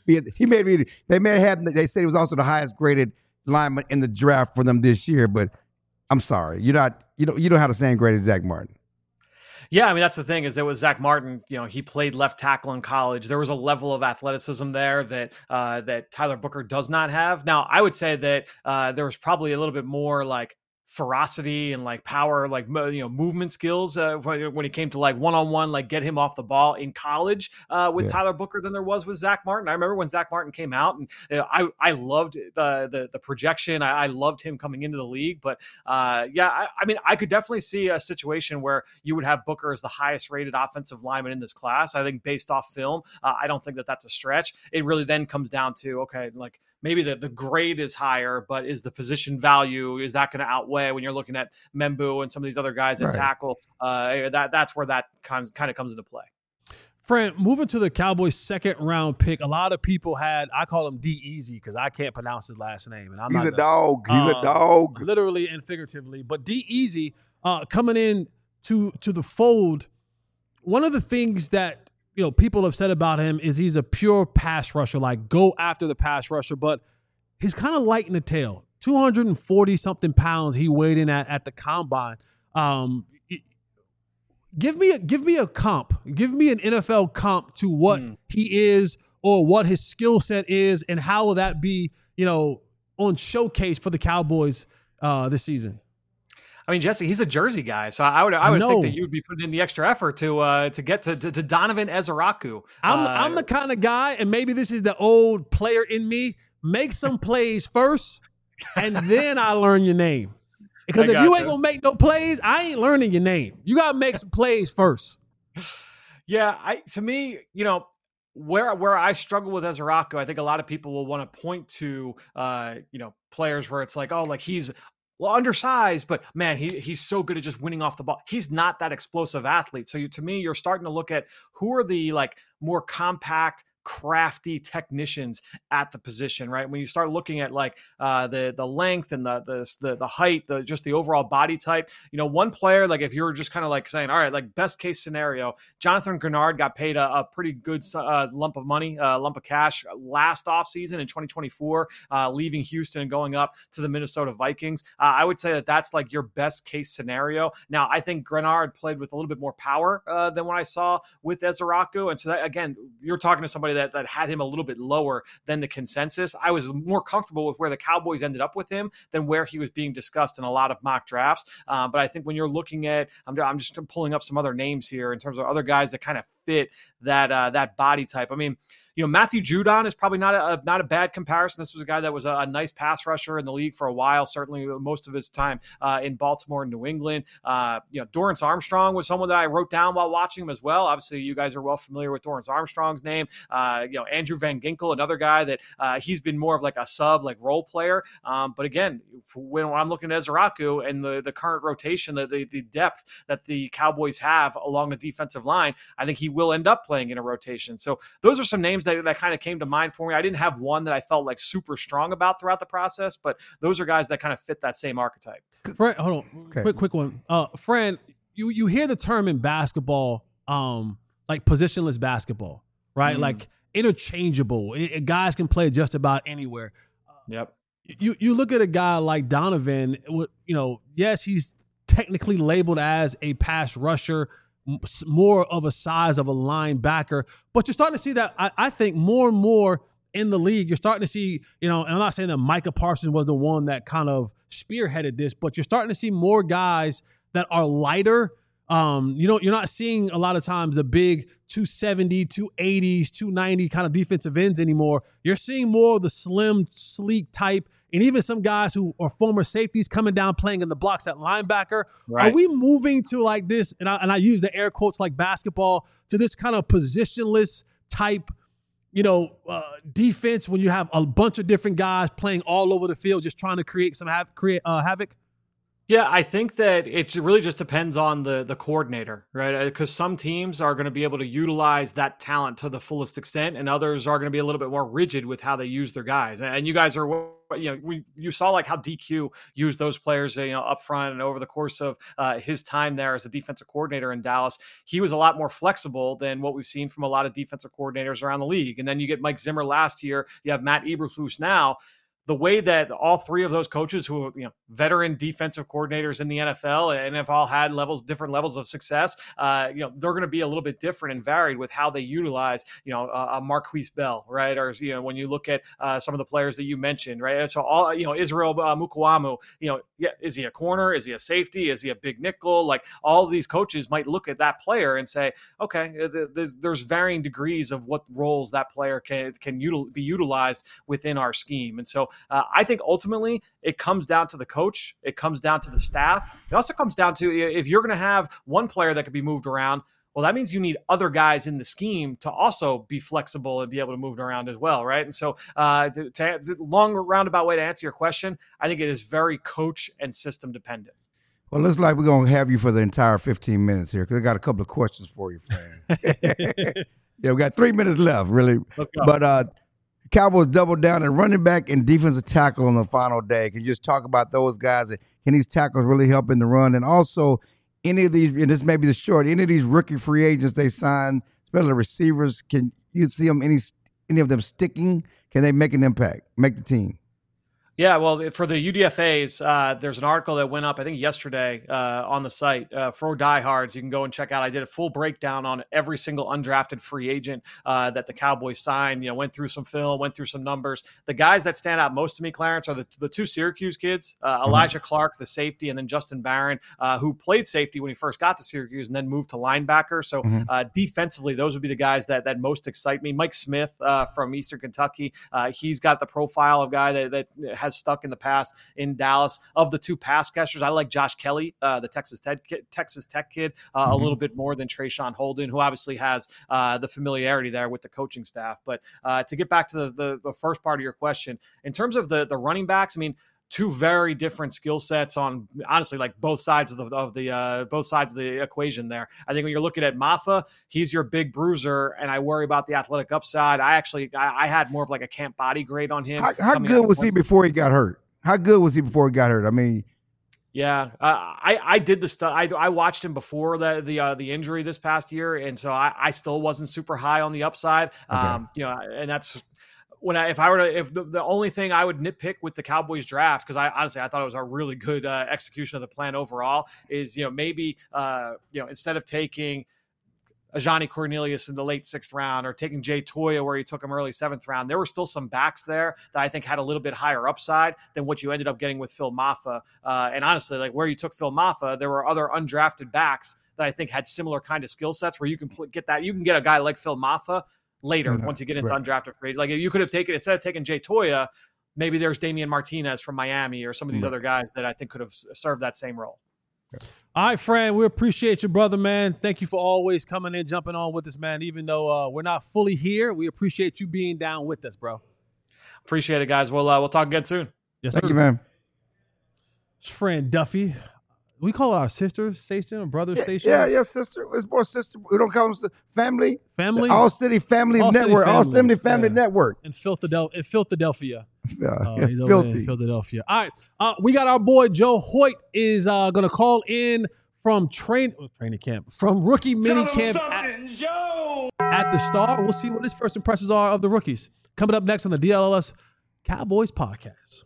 They said he was also the highest graded lineman in the draft for them this year, but I'm sorry. You don't have the same grade as Zach Martin. Yeah, I mean, that's the thing is that with Zach Martin, he played left tackle in college. There was a level of athleticism there that Tyler Booker does not have. Now, I would say that there was probably a little bit more like ferocity and like power, like, movement skills when it came to like one-on-one, like get him off the ball in college with Tyler Booker than there was with Zach Martin. I remember when Zach Martin came out and I loved the projection. I loved him coming into the league, but I mean, I could definitely see a situation where you would have Booker as the highest rated offensive lineman in this class. I think based off film, I don't think that that's a stretch. It really then comes down to, okay, like maybe the grade is higher, but is the position value, is that going to outweigh when you're looking at Membu and some of these other guys at tackle? That's where that kind of comes into play. Fran, moving to the Cowboys' second round pick, a lot of people I call him D-Easy because I can't pronounce his last name. And He's a dog. Literally and figuratively. But D-Easy coming in to the fold, one of the things that people have said about him is he's a pure pass rusher, like go after the pass rusher, but he's kind of light in the tail. 240 something pounds he weighed in at the combine. Give me a comp. Give me an NFL comp to what he is or what his skill set is, and how will that be, on showcase for the Cowboys this season? I mean, Jesse, he's a Jersey guy, so I would think that you would be putting in the extra effort to get to Donovan Ezaraku. I'm the kind of guy, and maybe this is the old player in me, make some plays first, and then I learn your name. Because if you ain't gonna make no plays, I ain't learning your name. You gotta make some plays first. Yeah, to me, where I struggle with Ezaraku, I think a lot of people will want to point to players where it's like, oh, like he's undersized, but man, he's so good at just winning off the ball. He's not that explosive athlete. So to me, you're starting to look at who are the like more compact, crafty technicians at the position, right? When you start looking at like the length and the height, just the overall body type, one player, like if you're just kind of like saying, all right, like best case scenario, Jonathan Grenard got paid a pretty good lump of money, lump of cash last offseason in 2024, leaving Houston and going up to the Minnesota Vikings. I would say that that's like your best case scenario. Now, I think Grenard played with a little bit more power than what I saw with Ezaraku. And so that, again, you're talking to somebody that had him a little bit lower than the consensus. I was more comfortable with where the Cowboys ended up with him than where he was being discussed in a lot of mock drafts. But I think when you're looking at, I'm just pulling up some other names here in terms of other guys that kind of fit that body type. I mean, Matthew Judon is probably not a bad comparison. This was a guy that was a nice pass rusher in the league for a while, certainly most of his time in Baltimore and New England. Dorrance Armstrong was someone that I wrote down while watching him as well. Obviously, you guys are well familiar with Dorrance Armstrong's name. Andrew Van Ginkel, another guy that he's been more of like a sub, like role player. But again, when I'm looking at Ezaraku and the current rotation, the depth that the Cowboys have along the defensive line, I think he will end up playing in a rotation. So those are some names names that kind of came to mind for me. I didn't have one that I felt like super strong about throughout the process, but those are guys that kind of fit that same archetype. Fran, hold on, okay. quick one. Fran, you hear the term in basketball, like positionless basketball, right? Like interchangeable. Guys can play just about anywhere. Yep. You look at a guy like Donovan, yes, he's technically labeled as a pass rusher, more of a size of a linebacker, but you're starting to see that, I think, more and more in the league. You're starting to see, and I'm not saying that Micah Parsons was the one that kind of spearheaded this, but you're starting to see more guys that are lighter. You're not seeing a lot of times the big 270, 280s, 290 kind of defensive ends anymore. You're seeing more of the slim, sleek type, and even some guys who are former safeties coming down playing in the blocks at linebacker. Right. Are we moving to like this, and I use the air quotes like basketball, to this kind of positionless type, defense when you have a bunch of different guys playing all over the field just trying to create havoc? Yeah, I think that it really just depends on the coordinator, right? Because some teams are going to be able to utilize that talent to the fullest extent, and others are going to be a little bit more rigid with how they use their guys. And you guys are, you saw like how DQ used those players, up front and over the course of his time there as a defensive coordinator in Dallas. He was a lot more flexible than what we've seen from a lot of defensive coordinators around the league. And then you get Mike Zimmer last year. You have Matt Eberflus now. The way that all three of those coaches who are, veteran defensive coordinators in the NFL and have all had different levels of success, they're going to be a little bit different and varied with how they utilize, a Marquise Bell, right? Or, when you look at some of the players that you mentioned, right? And so all, Israel Mukuamu, is he a corner? Is he a safety? Is he a big nickel? Like all of these coaches might look at that player and say, okay, there's varying degrees of what roles that player can be utilized within our scheme. And so I think ultimately it comes down to the coach. It comes down to the staff. It also comes down to, if you're going to have one player that could be moved around, well, that means you need other guys in the scheme to also be flexible and be able to move around as well, right? And so to long roundabout way to answer your question, I think it is very coach and system dependent. Well, it looks like we're going to have you for the entire 15 minutes here because I got a couple of questions for you, Fran. Yeah, we got 3 minutes left, really. Let's go. But Cowboys doubled down at running back and defensive tackle on the final day. Can you just talk about those guys? Can these tackles really help in the run? And also, any of these, and this may be the short, any of these rookie free agents they signed, especially receivers, can you see them, any of them sticking? Can they make an impact, make the team? Yeah, well, for the UDFAs, there's an article that went up, I think, yesterday on the site for diehards. You can go and check out. I did a full breakdown on every single undrafted free agent that the Cowboys signed. Went through some film, went through some numbers. The guys that stand out most to me, Clarence, are the two Syracuse kids, Elijah Clark, the safety, and then Justin Barron, who played safety when he first got to Syracuse and then moved to linebacker. So defensively, those would be the guys that most excite me. Mike Smith from Eastern Kentucky, he's got the profile of guy that has stuck in the past in Dallas. Of the two pass catchers, I like Josh Kelly, the Texas Tech kid, a little bit more than Trayshawn Holden, who obviously has the familiarity there with the coaching staff. But to get back to the first part of your question, in terms of the running backs, I mean, two very different skill sets on, honestly, like both sides of the equation there. I think when you're looking at Maffa, he's your big bruiser, and I worry about the athletic upside. I had more of like a camp body grade on him. How good was he before he got hurt? I mean, yeah, I did the stuff. I watched him before the injury this past year, and so I still wasn't super high on the upside. Okay. And that's. If the only thing I would nitpick with the Cowboys draft, because I thought it was a really good execution of the plan overall, is maybe instead of taking Ajani Cornelius in the late 6th round or taking Jay Toya where you took him early 7th round, there were still some backs there that I think had a little bit higher upside than what you ended up getting with Phil Maffa. And honestly, like where you took Phil Maffa, there were other undrafted backs that I think had similar kind of skill sets where you can get a guy like Phil Maffa later once you get into undrafted free. Like you could have taken, instead of taking Jay Toya, maybe there's Damian Martinez from Miami or some of these other guys that I think could have served that same role. All right, Fran, we appreciate you, brother, man. Thank you for always coming in, jumping on with us, man. Even though we're not fully here, we appreciate you being down with us, bro. Appreciate it, guys. We'll talk again soon. Yes, Thank you, man. It's Fran Duffy. We call it our sister station or brother station. Yeah, sister. It's more sister. We don't call them family. Family. All City Family Network. All City Family Network. In Philadelphia. Filthy. In Philadelphia. All right. We got our boy Joe Hoyt is going to call in from training camp, from rookie mini camp at the Star. We'll see what his first impressions are of the rookies. Coming up next on the DLLS Cowboys podcast.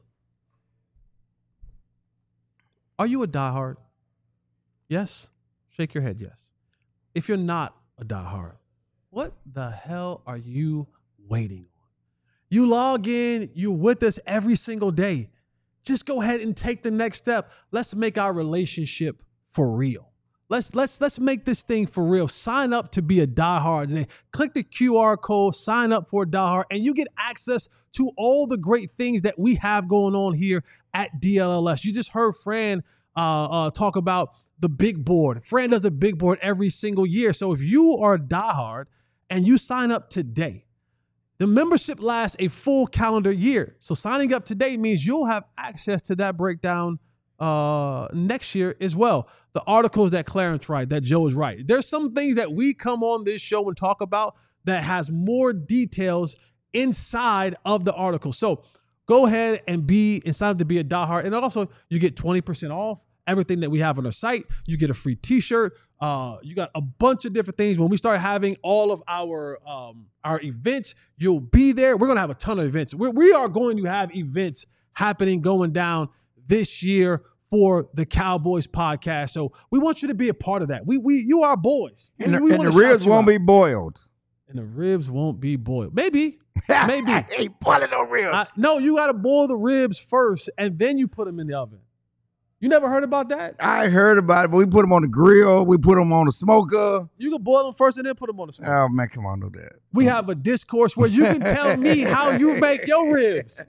Are you a diehard? Yes? Shake your head, yes. If you're not a diehard, what the hell are you waiting on? You log in, you're with us every single day. Just go ahead and take the next step. Let's make our relationship for real. Let's make this thing for real. Sign up to be a diehard today. Click the QR code, sign up for a diehard, and you get access to all the great things that we have going on here at DLLS. You just heard Fran talk about the big board. Fran does a big board every single year. So if you are a diehard and you sign up today, the membership lasts a full calendar year. So signing up today means you'll have access to that breakdown next year as well. The articles that Clarence writes, that Joe is right. There's some things that we come on this show and talk about that has more details inside of the article. So go ahead and sign up to be a diehard. And also you get 20% off everything that we have on our site. You get a free t-shirt. You got a bunch of different things. When we start having all of our events, you'll be there. We're going to have a ton of events. We are going to have events happening, going down this year for the Cowboys podcast. So we want you to be a part of that. You are boys. And the ribs won't be boiled. And the ribs won't be boiled. Maybe. I ain't boiling no ribs. No, you got to boil the ribs first, and then you put them in the oven. You never heard about that? I heard about it, but we put them on the grill. We put them on the smoker. You can boil them first and then put them on the smoker. Oh, man, come on, do that. We have a discourse where you can tell me how you make your ribs.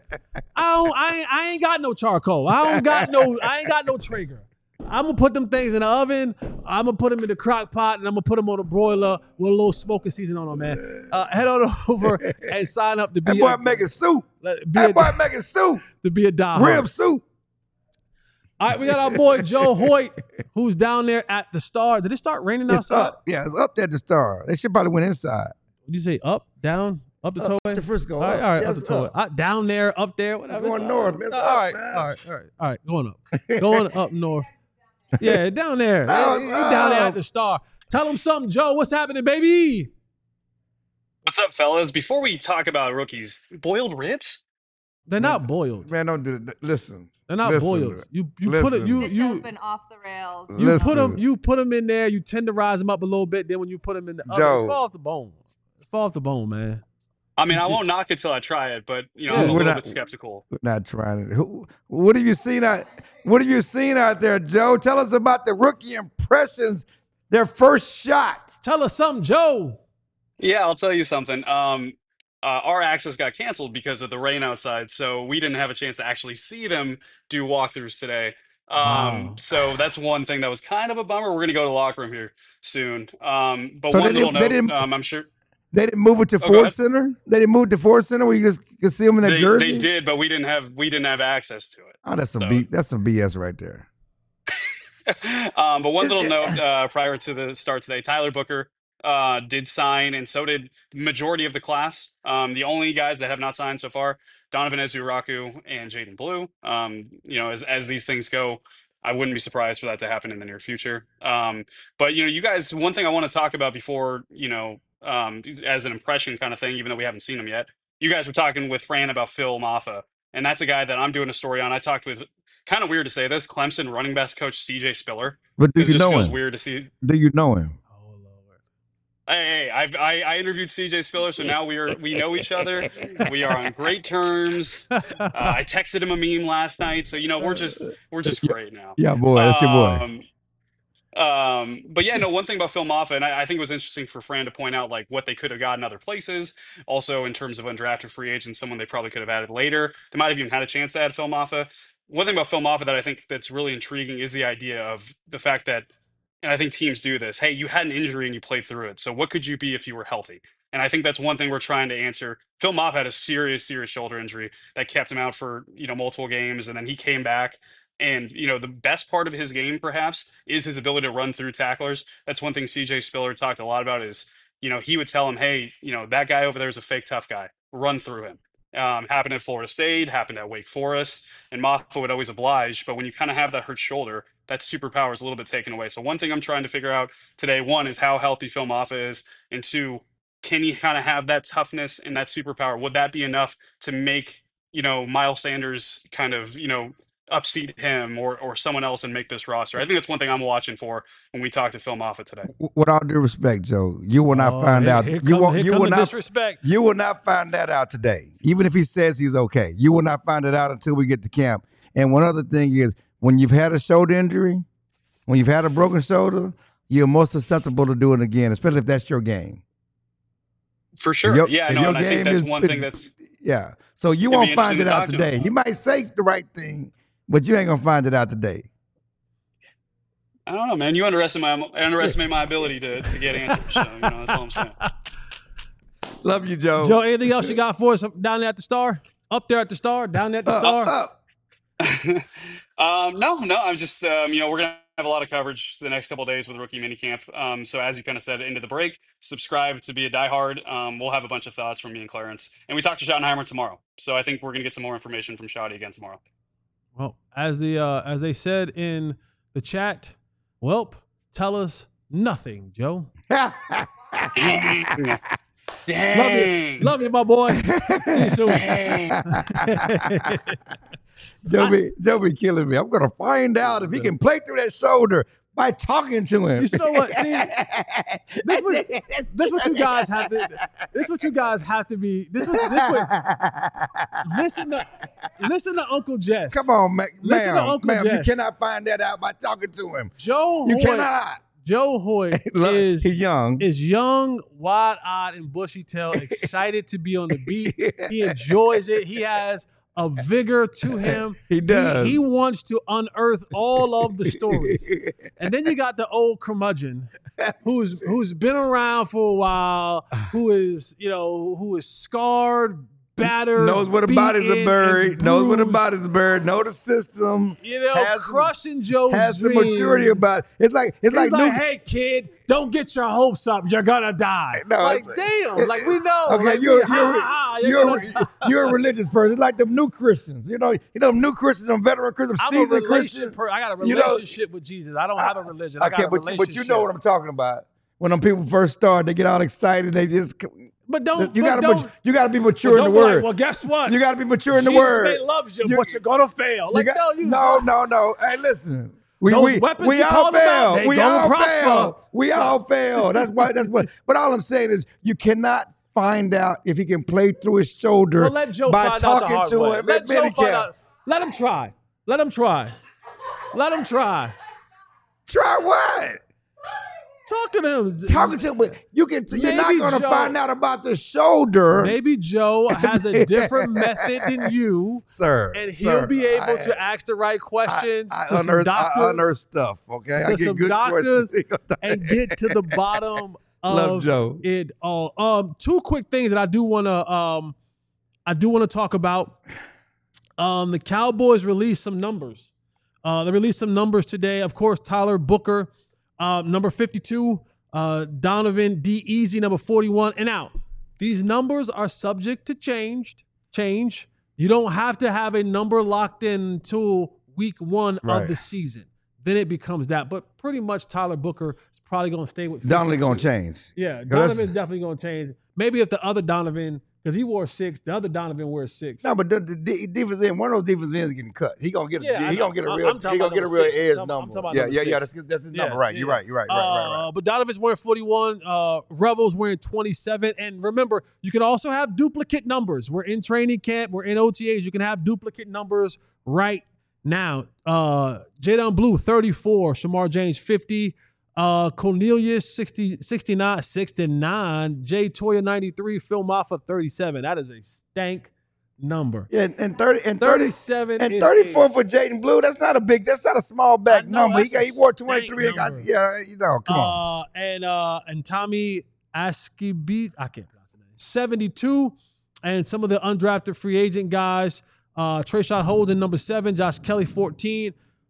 I ain't got no charcoal. I ain't got no Traeger. I'm going to put them things in the oven. I'm going to put them in the crock pot, and I'm going to put them on a broiler with a little smoking season on them, man. Head on over and sign up to be that boy making soup. To be a diehard. Rib soup. All right, we got our boy Joe Hoyt, who's down there at the Star. Did it start raining outside? Up. Yeah, it's up there at the Star. They should probably went inside. Did you say up, down, up the tollway? To Frisco. All right, up the tollway. Down there, up there, whatever. Going north. All right, going up. Going up north. Yeah, down there. He's down there at the Star. Tell him something, Joe. What's happening, baby? What's up, fellas? Before we talk about rookies, boiled ribs? They're not boiled. Man, don't do that. Listen. They're not boiled. You put it. This show's been off the rails. You put them in there. You tenderize them up a little bit. Then when you put them in the oven, it's fall off the bone. It's fall off the bone, man. I mean, I won't knock it till I try it, but I'm a little bit skeptical. We're not trying it. What have you seen out there, Joe? Tell us about the rookie impressions. Their first shot. Tell us something, Joe. Yeah, I'll tell you something. Our access got canceled because of the rain outside, so we didn't have a chance to actually see them do walkthroughs today. So that's one thing that was kind of a bummer. We're going to go to the locker room here soon. But so one little note, I'm sure they didn't move it to Ford Center. They didn't move it to Ford Center where you just could see them in their jersey. They did, but we didn't have access to it. Oh, that's some BS right there. But one little note prior to the start today, Tyler Booker did sign, and so did the majority of the class. The only guys that have not signed so far, Donovan Ezuraku and Jaden Blue. As these things go, I wouldn't be surprised for that to happen in the near future. But you guys, one thing I want to talk about before, as an impression kind of thing, even though we haven't seen him yet, you guys were talking with Fran about Phil Maffa, and that's a guy that I'm doing a story on. I talked with, kind of weird to say this, Clemson running backs coach CJ Spiller. But do you know him? Feels weird to see. Do you know him? Hey, I interviewed CJ Spiller, so now we know each other. We are on great terms. I texted him a meme last night, so we're just great now. Yeah, boy, that's your boy. But yeah, no, one thing about Phil Maffa, and I think it was interesting for Fran to point out like what they could have gotten other places. Also, in terms of undrafted free agents, someone they probably could have added later. They might have even had a chance to add Phil Maffa. One thing about Phil Maffa that I think that's really intriguing is the idea of the fact that, and I think teams do this, hey, you had an injury and you played through it. So what could you be if you were healthy? And I think that's one thing we're trying to answer. Phil Maffa had a serious shoulder injury that kept him out for, multiple games. And then he came back. And, the best part of his game, perhaps, is his ability to run through tacklers. That's one thing CJ Spiller talked a lot about is, he would tell him, hey, that guy over there is a fake tough guy. Run through him. Happened at Florida State, happened at Wake Forest, and Mafah would always oblige. But when you kind of have that hurt shoulder, that superpower is a little bit taken away. So one thing I'm trying to figure out today, one, is how healthy Phil Mafah is, and two, can he kind of have that toughness and that superpower? Would that be enough to make, Miles Sanders kind of, upseat him or someone else and make this roster? I think that's one thing I'm watching for when we talk to Phil Mafah today. With all due respect, Joe, you will not find out. You will not disrespect. You will not find that out today. Even if he says he's okay, you will not find it out until we get to camp. And one other thing is, when you've had a shoulder injury, when you've had a broken shoulder, you're more susceptible to doing it again, especially if that's your game. For sure. And I think that's one thing that's... Yeah. So you won't find it out today. You might say the right thing, but you ain't going to find it out today. I don't know, man. You underestimate my ability to get answers. So, that's all I'm saying. Love you, Joe. Joe, anything else you got for us down there at the Star? Up there at the Star? Down there at the Star? No. I'm just, we're going to have a lot of coverage the next couple of days with rookie minicamp. So as you kind of said, into the break, subscribe to be a diehard. We'll have a bunch of thoughts from me and Clarence. And we talk to Schottenheimer tomorrow. So I think we're going to get some more information from Schotty again tomorrow. Well, as they said in the chat, welp, tell us nothing, Joe. Dang. Love you, my boy. See you soon. Joe be killing me. I'm gonna find out if he can play through that shoulder by talking to him. You know what? See, this what you guys have to. This what you guys have to be. Listen to Uncle Jess. Come on, ma'am. Jess. You cannot find that out by talking to him. Joe You Hoyt, cannot. Joe Hoyt He's young. Is young, wide-eyed, and bushy-tailed, excited to be on the beat. He enjoys it. He has a vigor to him. He does. He wants to unearth all of the stories. And then you got the old curmudgeon who's been around for a while, who is scarred, battered, knows where the bodies are buried, knows where the bodies are buried, know the system. Crushing Joe's has some maturity about it. It's like hey kid, don't get your hopes up. You're gonna die. No, damn, we know. Okay, you're a religious person. It's like them new Christians. You know, new Christians, them veteran Christians, seasoned Christians. I got a relationship with Jesus. I don't have a religion. I got a relationship. But you know what I'm talking about. When them people first start, they get all excited. They just. But you gotta be mature in the word. Well, guess what? You gotta be mature in the word. Jesus loves you, but you're gonna fail. No. Hey, listen. We all fail. That's what. But all I'm saying is, you cannot find out if he can play through his shoulder by talking to him at minicamp. Let him try. Try what? Talking to him, but you're not going to find out about the shoulder. Maybe Joe has a different method than you, sir, and he'll be able to ask the right questions to some doctors. I unearth stuff, okay? To some doctors and get to the bottom of it all. Two quick things that I do want to talk about. The Cowboys released some numbers. They released some numbers today. Of course, Tyler Booker. Number 52, Donovan D. Easy, number 41, and out. These numbers are subject to change. You don't have to have a number locked in until week 1 of the season. Then it becomes that. But pretty much Tyler Booker is probably going to stay with 52. Donovan going to change. Yeah, Donovan's definitely going to change. Maybe if the other Donovan, because he wore 6, the other Donovan wears 6. No, but the defense end, one of those defensive ends getting cut. He gonna get a real edge number. Yeah. That's his number, right? You're right. But Donovan's wearing 41. Rebels wearing 27. And remember, you can also have duplicate numbers. We're in training camp. We're in OTAs. You can have duplicate numbers right now. Jadon Blue 34. Shamar James 50. Cornelius 69, Jay Toya 93, Phil Mafah 37. That is a stank number. Yeah, and 37 and 34 for Jayden Blue. That's not a small back number. He wore 23. Come on. And Tommy Askibit, I can't pronounce the name. 72, and some of the undrafted free agent guys. Trayshawn Holden, number 7, Josh Kelly 14.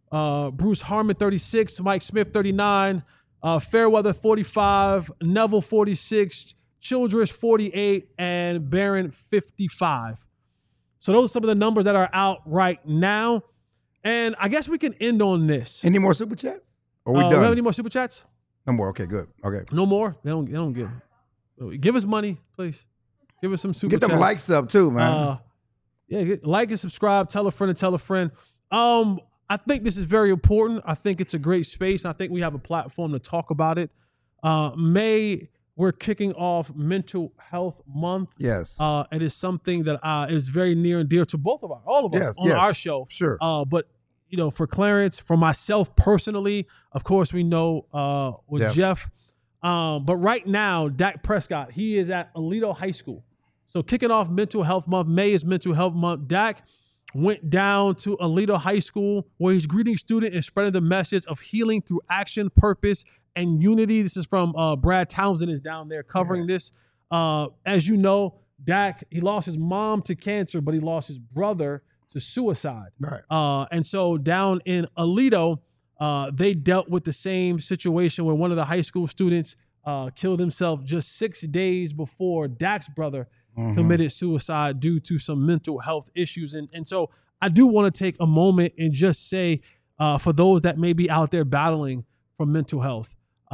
Bruce Harmon, 36. Mike Smith, 39. Fairweather, 45. Neville, 46. Childress, 48. And Barron, 55. So those are some of the numbers that are out right now. And I guess we can end on this. Any more Super Chats? Or we done? Do we have any more Super Chats? No more. Okay, good. Okay. No more? They don't give. Give us money, please. Give us some Super Chats. Get them likes up too, man. Like and subscribe. Tell a friend and tell a friend. I think this is very important. I think it's a great space. I think we have a platform to talk about it. May, we're kicking off Mental Health Month. Yes. It is something that is very near and dear to all of us on our show. Sure. But for Clarence, for myself personally, of course we know with Jeff. But right now, Dak Prescott, he is at Aledo High School. So kicking off Mental Health Month. May is Mental Health Month. Dak went down to Aledo High School where he's greeting students and spreading the message of healing through action, purpose, and unity. This is from Brad Townsend is down there covering this. As you know, Dak, he lost his mom to cancer, but he lost his brother to suicide. Right. And so down in Aledo, they dealt with the same situation where one of the high school students killed himself just 6 days before Dak's brother committed suicide due to some mental health issues. And so I do want to take a moment and just say, for those that may be out there battling for mental health,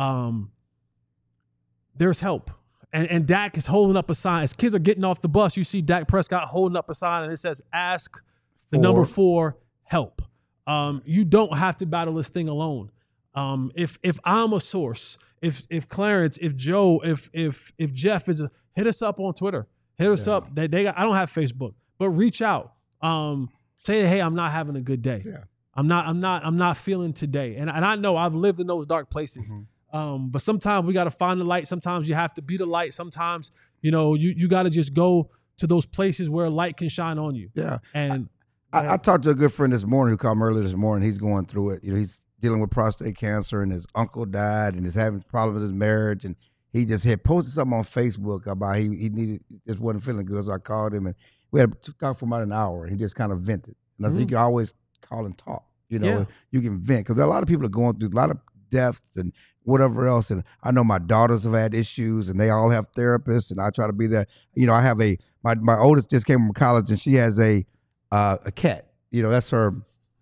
there's help. And Dak is holding up a sign. As kids are getting off the bus, you see Dak Prescott holding up a sign and it says, ask the number 4, help. You don't have to battle this thing alone. If I'm a source, if Clarence, if Joe, if Jeff hit us up on Twitter. Hit us up. I don't have Facebook, but reach out. Say, hey, I'm not having a good day. Yeah. I'm not feeling today. And I know I've lived in those dark places. But sometimes we got to find the light. Sometimes you have to be the light. Sometimes, you got to just go to those places where light can shine on you. Yeah. And I talked to a good friend this morning who called me earlier this morning. He's going through it. He's dealing with prostate cancer and his uncle died and he's having problems with his marriage. And he just had posted something on Facebook about he just wasn't feeling good. So I called him and we had to talk for about an hour. He just kind of vented. And I think you can always call and talk. You can vent because a lot of people are going through a lot of deaths and whatever else. And I know my daughters have had issues and they all have therapists and I try to be there. I have my oldest just came from college and she has a cat. That's her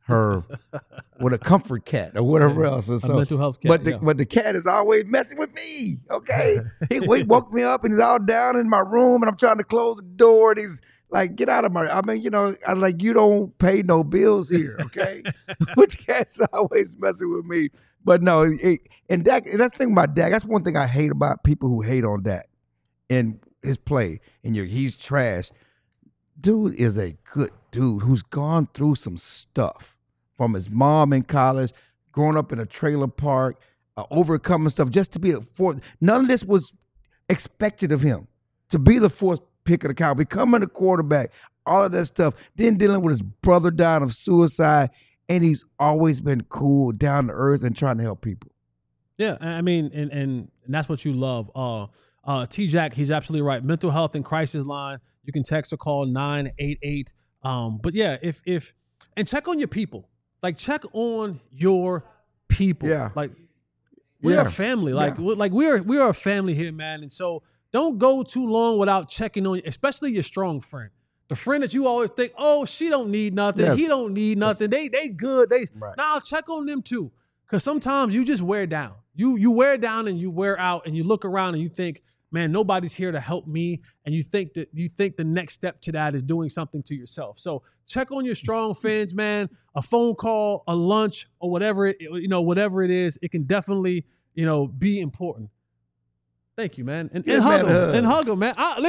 with a comfort cat or whatever else. And so, a mental health cat. But the cat is always messing with me. Okay. He woke me up and he's all down in my room and I'm trying to close the door and he's like, get out of my, I'm like, you don't pay no bills here. Okay. But the cat's always messing with me. But no, and Dak, and that's the thing about Dak. That's one thing I hate about people who hate on Dak and his play. And he's trash. Dude is a good dude who's gone through some stuff from his mom in college, growing up in a trailer park, overcoming stuff just to be the fourth. None of this was expected of him to be the fourth pick of the cow, becoming a quarterback, all of that stuff, then dealing with his brother dying of suicide. And he's always been cool, down to earth, and trying to help people. Yeah, I mean, and that's what you love. T-Jack, he's absolutely right. Mental health and crisis line. You can text or call 988. But yeah, if check on your people. Like check on your people. Yeah. Like we are family. Like we are a family here, man. And so don't go too long without checking on, especially your strong friend. The friend that you always think, oh, she don't need nothing. Yes. He don't need nothing. They good. Now check on them too. Because sometimes you just wear down. You wear down and you wear out and you look around and you think, man, nobody's here to help me. And you think the next step to that is doing something to yourself. So check on your strong friends, man. A phone call, a lunch, or whatever it is, it can definitely, be important. Thank you, man. And hug them, man. I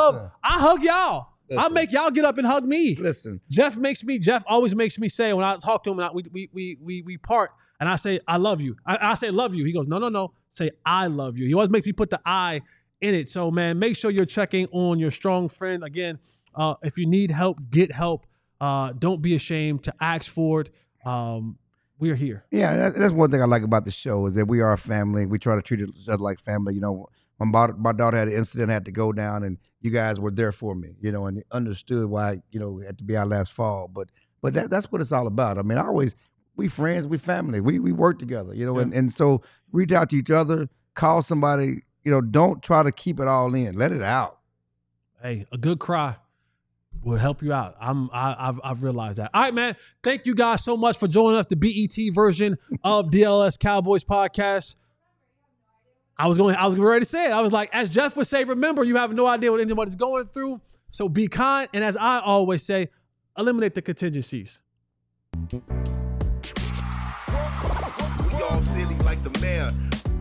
hug y'all. I make y'all get up and hug me. Listen. Jeff always makes me say when I talk to him and we part and I say, I love you. I say, love you. He goes, no. Say, I love you. He always makes me put the I in it. So, man, make sure you're checking on your strong friend. Again, if you need help, get help. Don't be ashamed to ask for it. We're here. Yeah, that's one thing I like about the show is that we are a family. We try to treat each other like family. When my daughter had an incident, had to go down, and you guys were there for me, and understood why, it had to be our last fall. But that's what it's all about. I mean, we friends, we family. We work together, you know, and so reach out to each other, call somebody, you know, don't try to keep it all in. Let it out. Hey, a good cry will help you out. I've realized that. All right, man. Thank you guys so much for joining us, the BET version of DLS Cowboys podcast. I was ready to say it. I was like, as Jeff would say, remember, you have no idea what anybody's going through. So be kind. And as I always say, eliminate the contingencies. We all silly like the mayor.